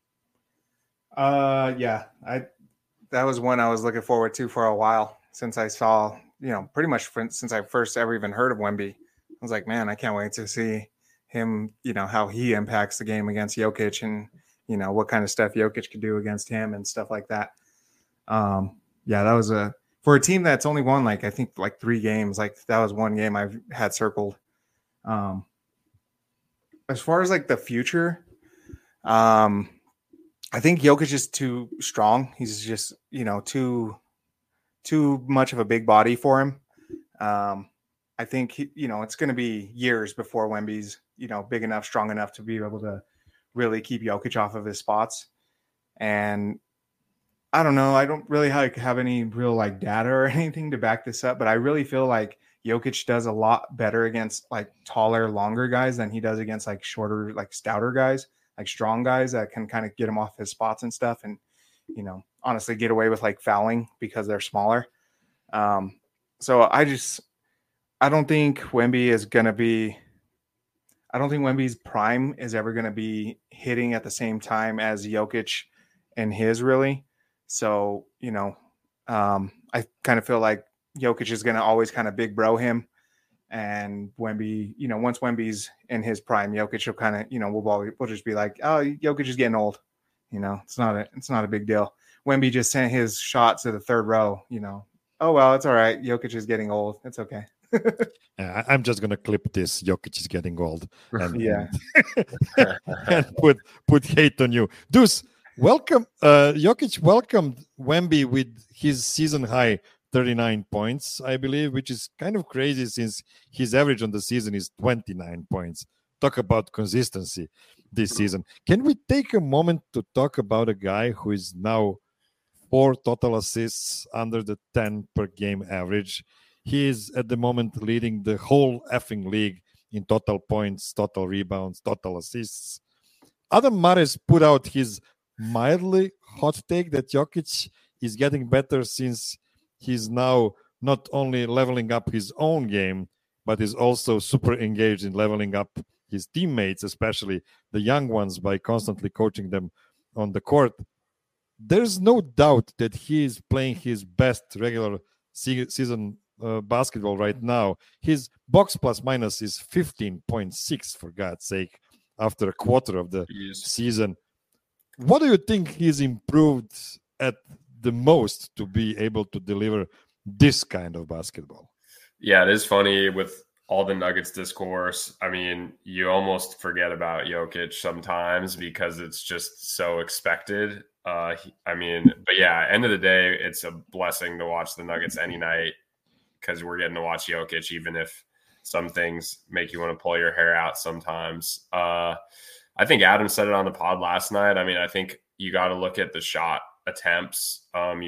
That was one I was looking forward to for a while, since I saw, pretty much since I first ever even heard of Wemby. I was like, man, I can't wait to see him, how he impacts the game against Jokic, and, what kind of stuff Jokic could do against him and stuff like that. That was for a team that's only won, I think 3 games, that was one game I've had circled. As far as the future, I think Jokic is too strong. He's just, too much of a big body for him. I think, it's going to be years before Wemby's, big enough, strong enough to be able to really keep Jokic off of his spots. And I don't know. I don't really have any real data or anything to back this up, but I really feel like Jokic does a lot better against like taller, longer guys than he does against like shorter, like stouter guys, like strong guys that can kind of get him off his spots and stuff. And, honestly get away with like fouling because they're smaller. So I don't think Wemby is going to be, I don't think Wemby's prime is ever going to be hitting at the same time as Jokic and his really. So, I kind of feel like Jokic is going to always kind of big bro him. And Wemby, once Wemby's in his prime, Jokic will kind of, we'll just be like, oh, Jokic is getting old. It's not a big deal. Wemby just sent his shot to the third row, oh, well, it's all right. Jokic is getting old. It's okay. I'm just going to clip this. Jokic is getting old. And, yeah. and put hate on you. Deuce, welcome. Jokic welcomed Wemby with his season high 39 points, I believe, which is kind of crazy since his average on the season is 29 points. Talk about consistency this season. Can we take a moment to talk about a guy who is now 4 total assists under the 10 per game average? He is at the moment leading the whole effing league in total points, total rebounds, total assists. Adam Mares put out his mildly hot take that Jokic is getting better since he's now not only leveling up his own game, but is also super engaged in leveling up his teammates, especially the young ones, by constantly coaching them on the court. There's no doubt that he is playing his best regular season basketball right now. His box plus minus is 15.6, for God's sake, after a quarter of the season. What do you think he's improved at the most to be able to deliver this kind of basketball? Yeah, it is funny with all the Nuggets discourse. I mean, you almost forget about Jokic sometimes because it's just so expected. But yeah, end of the day, it's a blessing to watch the Nuggets any night because we're getting to watch Jokic, even if some things make you want to pull your hair out sometimes. I think Adam said it on the pod last night. I mean, I think you got to look at the shot attempts.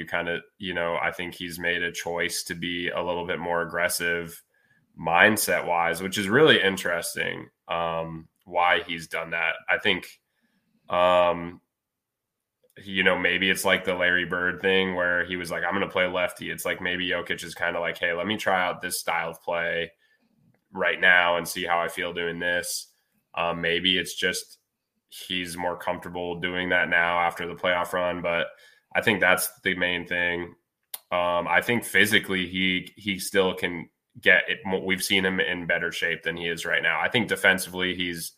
I think he's made a choice to be a little bit more aggressive mindset wise, which is really interesting. Why he's done that. I think, maybe it's like the Larry Bird thing where he was like, I'm going to play lefty. It's like maybe Jokic is kind of like, hey, let me try out this style of play right now and see how I feel doing this. Maybe it's just he's more comfortable doing that now after the playoff run, but I think that's the main thing. I think physically he still can get it. We've seen him in better shape than he is right now. I think defensively he's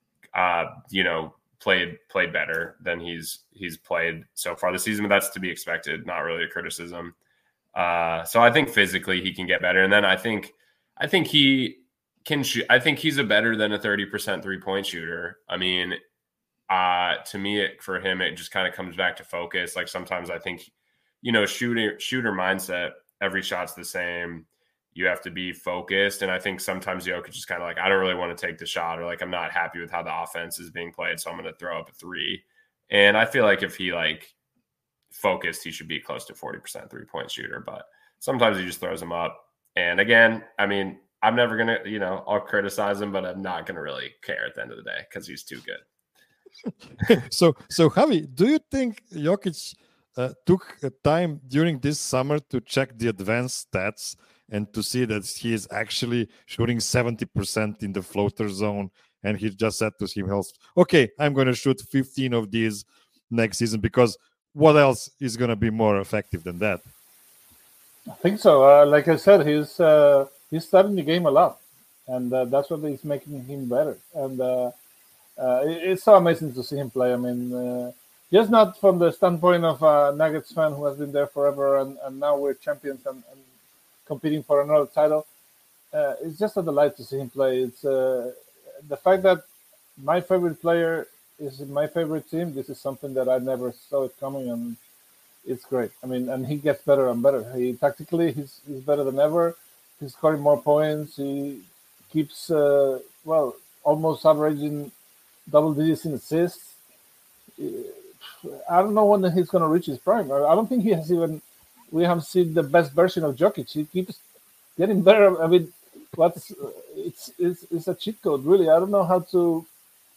played better than he's played so far this season, but that's to be expected, not really a criticism. So I think physically he can get better, and then I think he can shoot. I think he's a better than a 30% 3-point shooter. I mean, to me, for him, it just kind of comes back to focus. Like sometimes I think, shooter mindset, every shot's the same. You have to be focused. And I think sometimes Jokic is kind of like, I don't really want to take the shot, or like, I'm not happy with how the offense is being played, so I'm going to throw up a 3. And I feel like if he focused, he should be close to 40% 3-point shooter, but sometimes he just throws them up. And again, I mean, I'm never going to, I'll criticize him, but I'm not going to really care at the end of the day because he's too good. So Javi, do you think Jokic took time during this summer to check the advanced stats and to see that he is actually shooting 70% in the floater zone, and he just said to himself, okay, I'm going to shoot 15 of these next season, because what else is going to be more effective than that? I think so. Like I said, he's studying the game a lot, and that's what is making him better. And it's so amazing to see him play. I mean, just not from the standpoint of a Nuggets fan who has been there forever, and now we're champions and competing for another title. It's just a delight to see him play. It's the fact that my favorite player is in my favorite team. This is something that I never saw it coming, and it's great. I mean, and he gets better and better. Tactically, he's better than ever. He's scoring more points. He keeps almost averaging double digits in assists. I don't know when he's going to reach his prime. I don't think he has even. We have seen the best version of Jokic. He keeps getting better. I mean, it's a cheat code, really. I don't know how to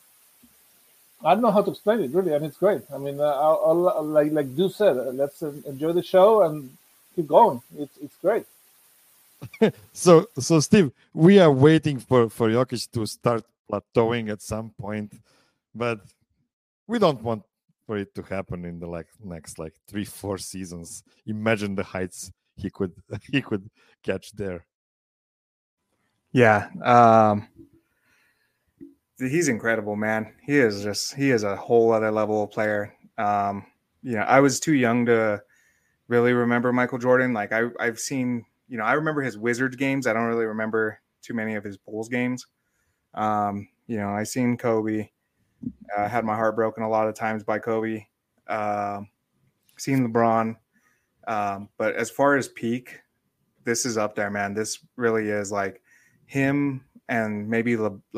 explain it, really, and it's great. I mean, like Du said, let's enjoy the show and keep going. It's great. So Steve, we are waiting for Jokic to start plateauing at some point, but we don't want for it to happen in the next 3-4 seasons. Imagine the heights he could catch there. Yeah. He's incredible, man. He is a whole other level of player. I was too young to really remember Michael Jordan. Like I've seen, I remember his Wizards games. I don't really remember too many of his Bulls games. I seen Kobe. Had my heart broken a lot of times by Kobe. Seen LeBron. But as far as peak, this is up there, man. This really is like him and maybe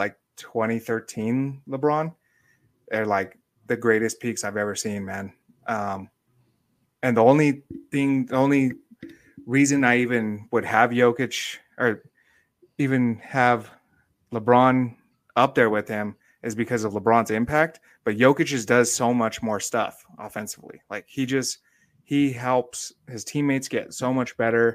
2013 LeBron. They're like the greatest peaks I've ever seen, man. And the only reason I even would have Jokic or even have LeBron up there with him is because of LeBron's impact. But Jokic just does so much more stuff offensively. Like he helps his teammates get so much better.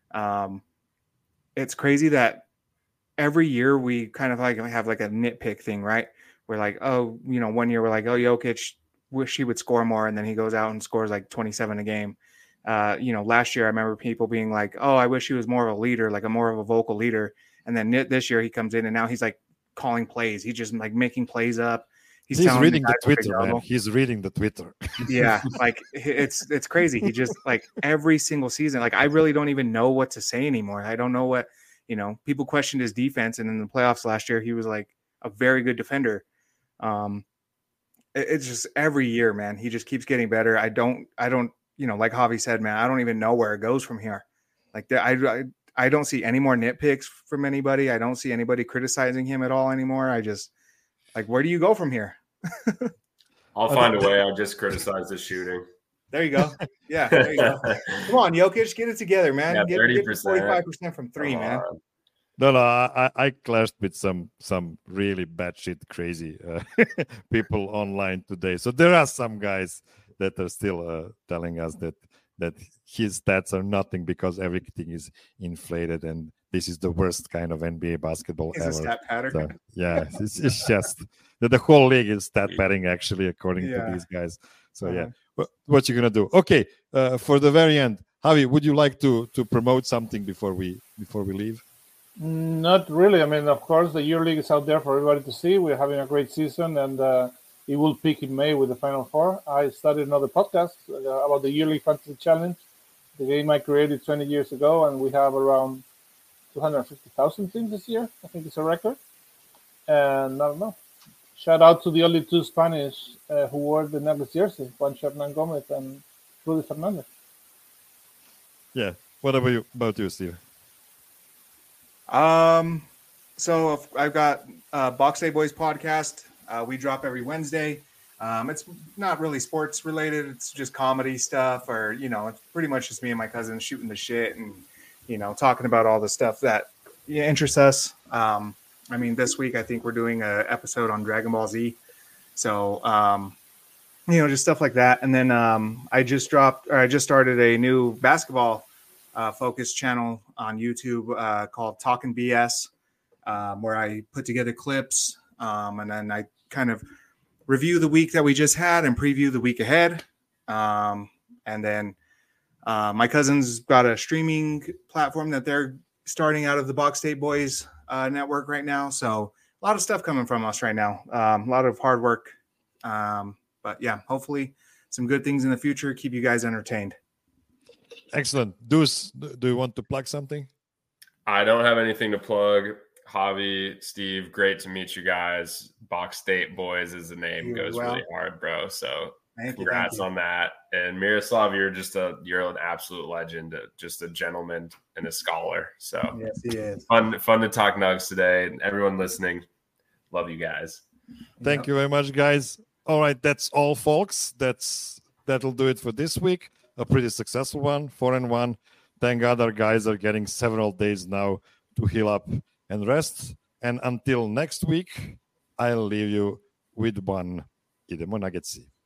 It's crazy that every year we kind of have a nitpick thing, right? We're like, oh, 1 year we're like, oh, Jokic, wish he would score more, and then he goes out and scores 27 a game. Last year I remember people being like, oh, I wish he was more of a leader, like a more of a vocal leader. And then this year he comes in and now he's calling plays. He's just making plays up. He's reading the Twitter, man. He's reading the Twitter. Yeah, it's crazy. He just every single season, I really don't even know what to say anymore. I don't know what, people questioned his defense, and in the playoffs last year he was a very good defender. It's just every year, man, he just keeps getting better. I don't, like Javi said, man, I don't even know where it goes from here. I don't see any more nitpicks from anybody. I don't see anybody criticizing him at all anymore. I just where do you go from here? I'll find a way. I'll just criticize the shooting. There you go. Yeah, there you go. Come on, Jokic, get it together, man. Yeah, get 45% from three, man. No, I clashed with some really batshit crazy people online today. So there are some guys that are still telling us that his stats are nothing because everything is inflated and this is the worst kind of NBA basketball ever. A stat pattern. So, yeah, it's just the whole league is stat padding actually, according to these guys. So yeah, what you gonna do? Okay, for the very end, Javi, would you like to promote something before we leave? Not really. I mean, of course, the EuroLeague is out there for everybody to see. We're having a great season, and it will peak in May with the Final Four. I started another podcast about the EuroLeague Fantasy Challenge, the game I created 20 years ago, and we have around 250,000 teams this year. I think it's a record. And I don't know. Shout out to the only two Spanish who wore the necklace jersey, Juancho Hernan Gomez and Rudy Fernandez. Yeah. What about you, Steve? So I've got Box Day Boys podcast. We drop every Wednesday. It's not really sports related. It's just comedy stuff, or it's pretty much just me and my cousin shooting the shit and talking about all the stuff that interests us. I mean, this week I think we're doing an episode on Dragon Ball Z. So just stuff like that. And then I just started a new basketball focused channel on YouTube called Talking BS, where I put together clips and then I kind of review the week that we just had and preview the week ahead. And then my cousin's got a streaming platform that they're starting out of the Box State Boys network right now. So a lot of stuff coming from us right now. A lot of hard work. But yeah, hopefully some good things in the future. Keep you guys entertained. Excellent. Deuce, do you want to plug something? I don't have anything to plug. Javi, Steve, great to meet you guys. Box State Boys is the name. Goes really hard, bro. So congrats on that. And Miroslav, you're an absolute legend, just a gentleman and a scholar. So yes, he is. Fun to talk Nugs today. And everyone listening, love you guys. Thank you very much, guys. All right, that's all, folks. That'll do it for this week. A pretty successful one, 4-1. Thank God our guys are getting several days now to heal up and rest. And until next week, I'll leave you with one. Idemo na Getsi.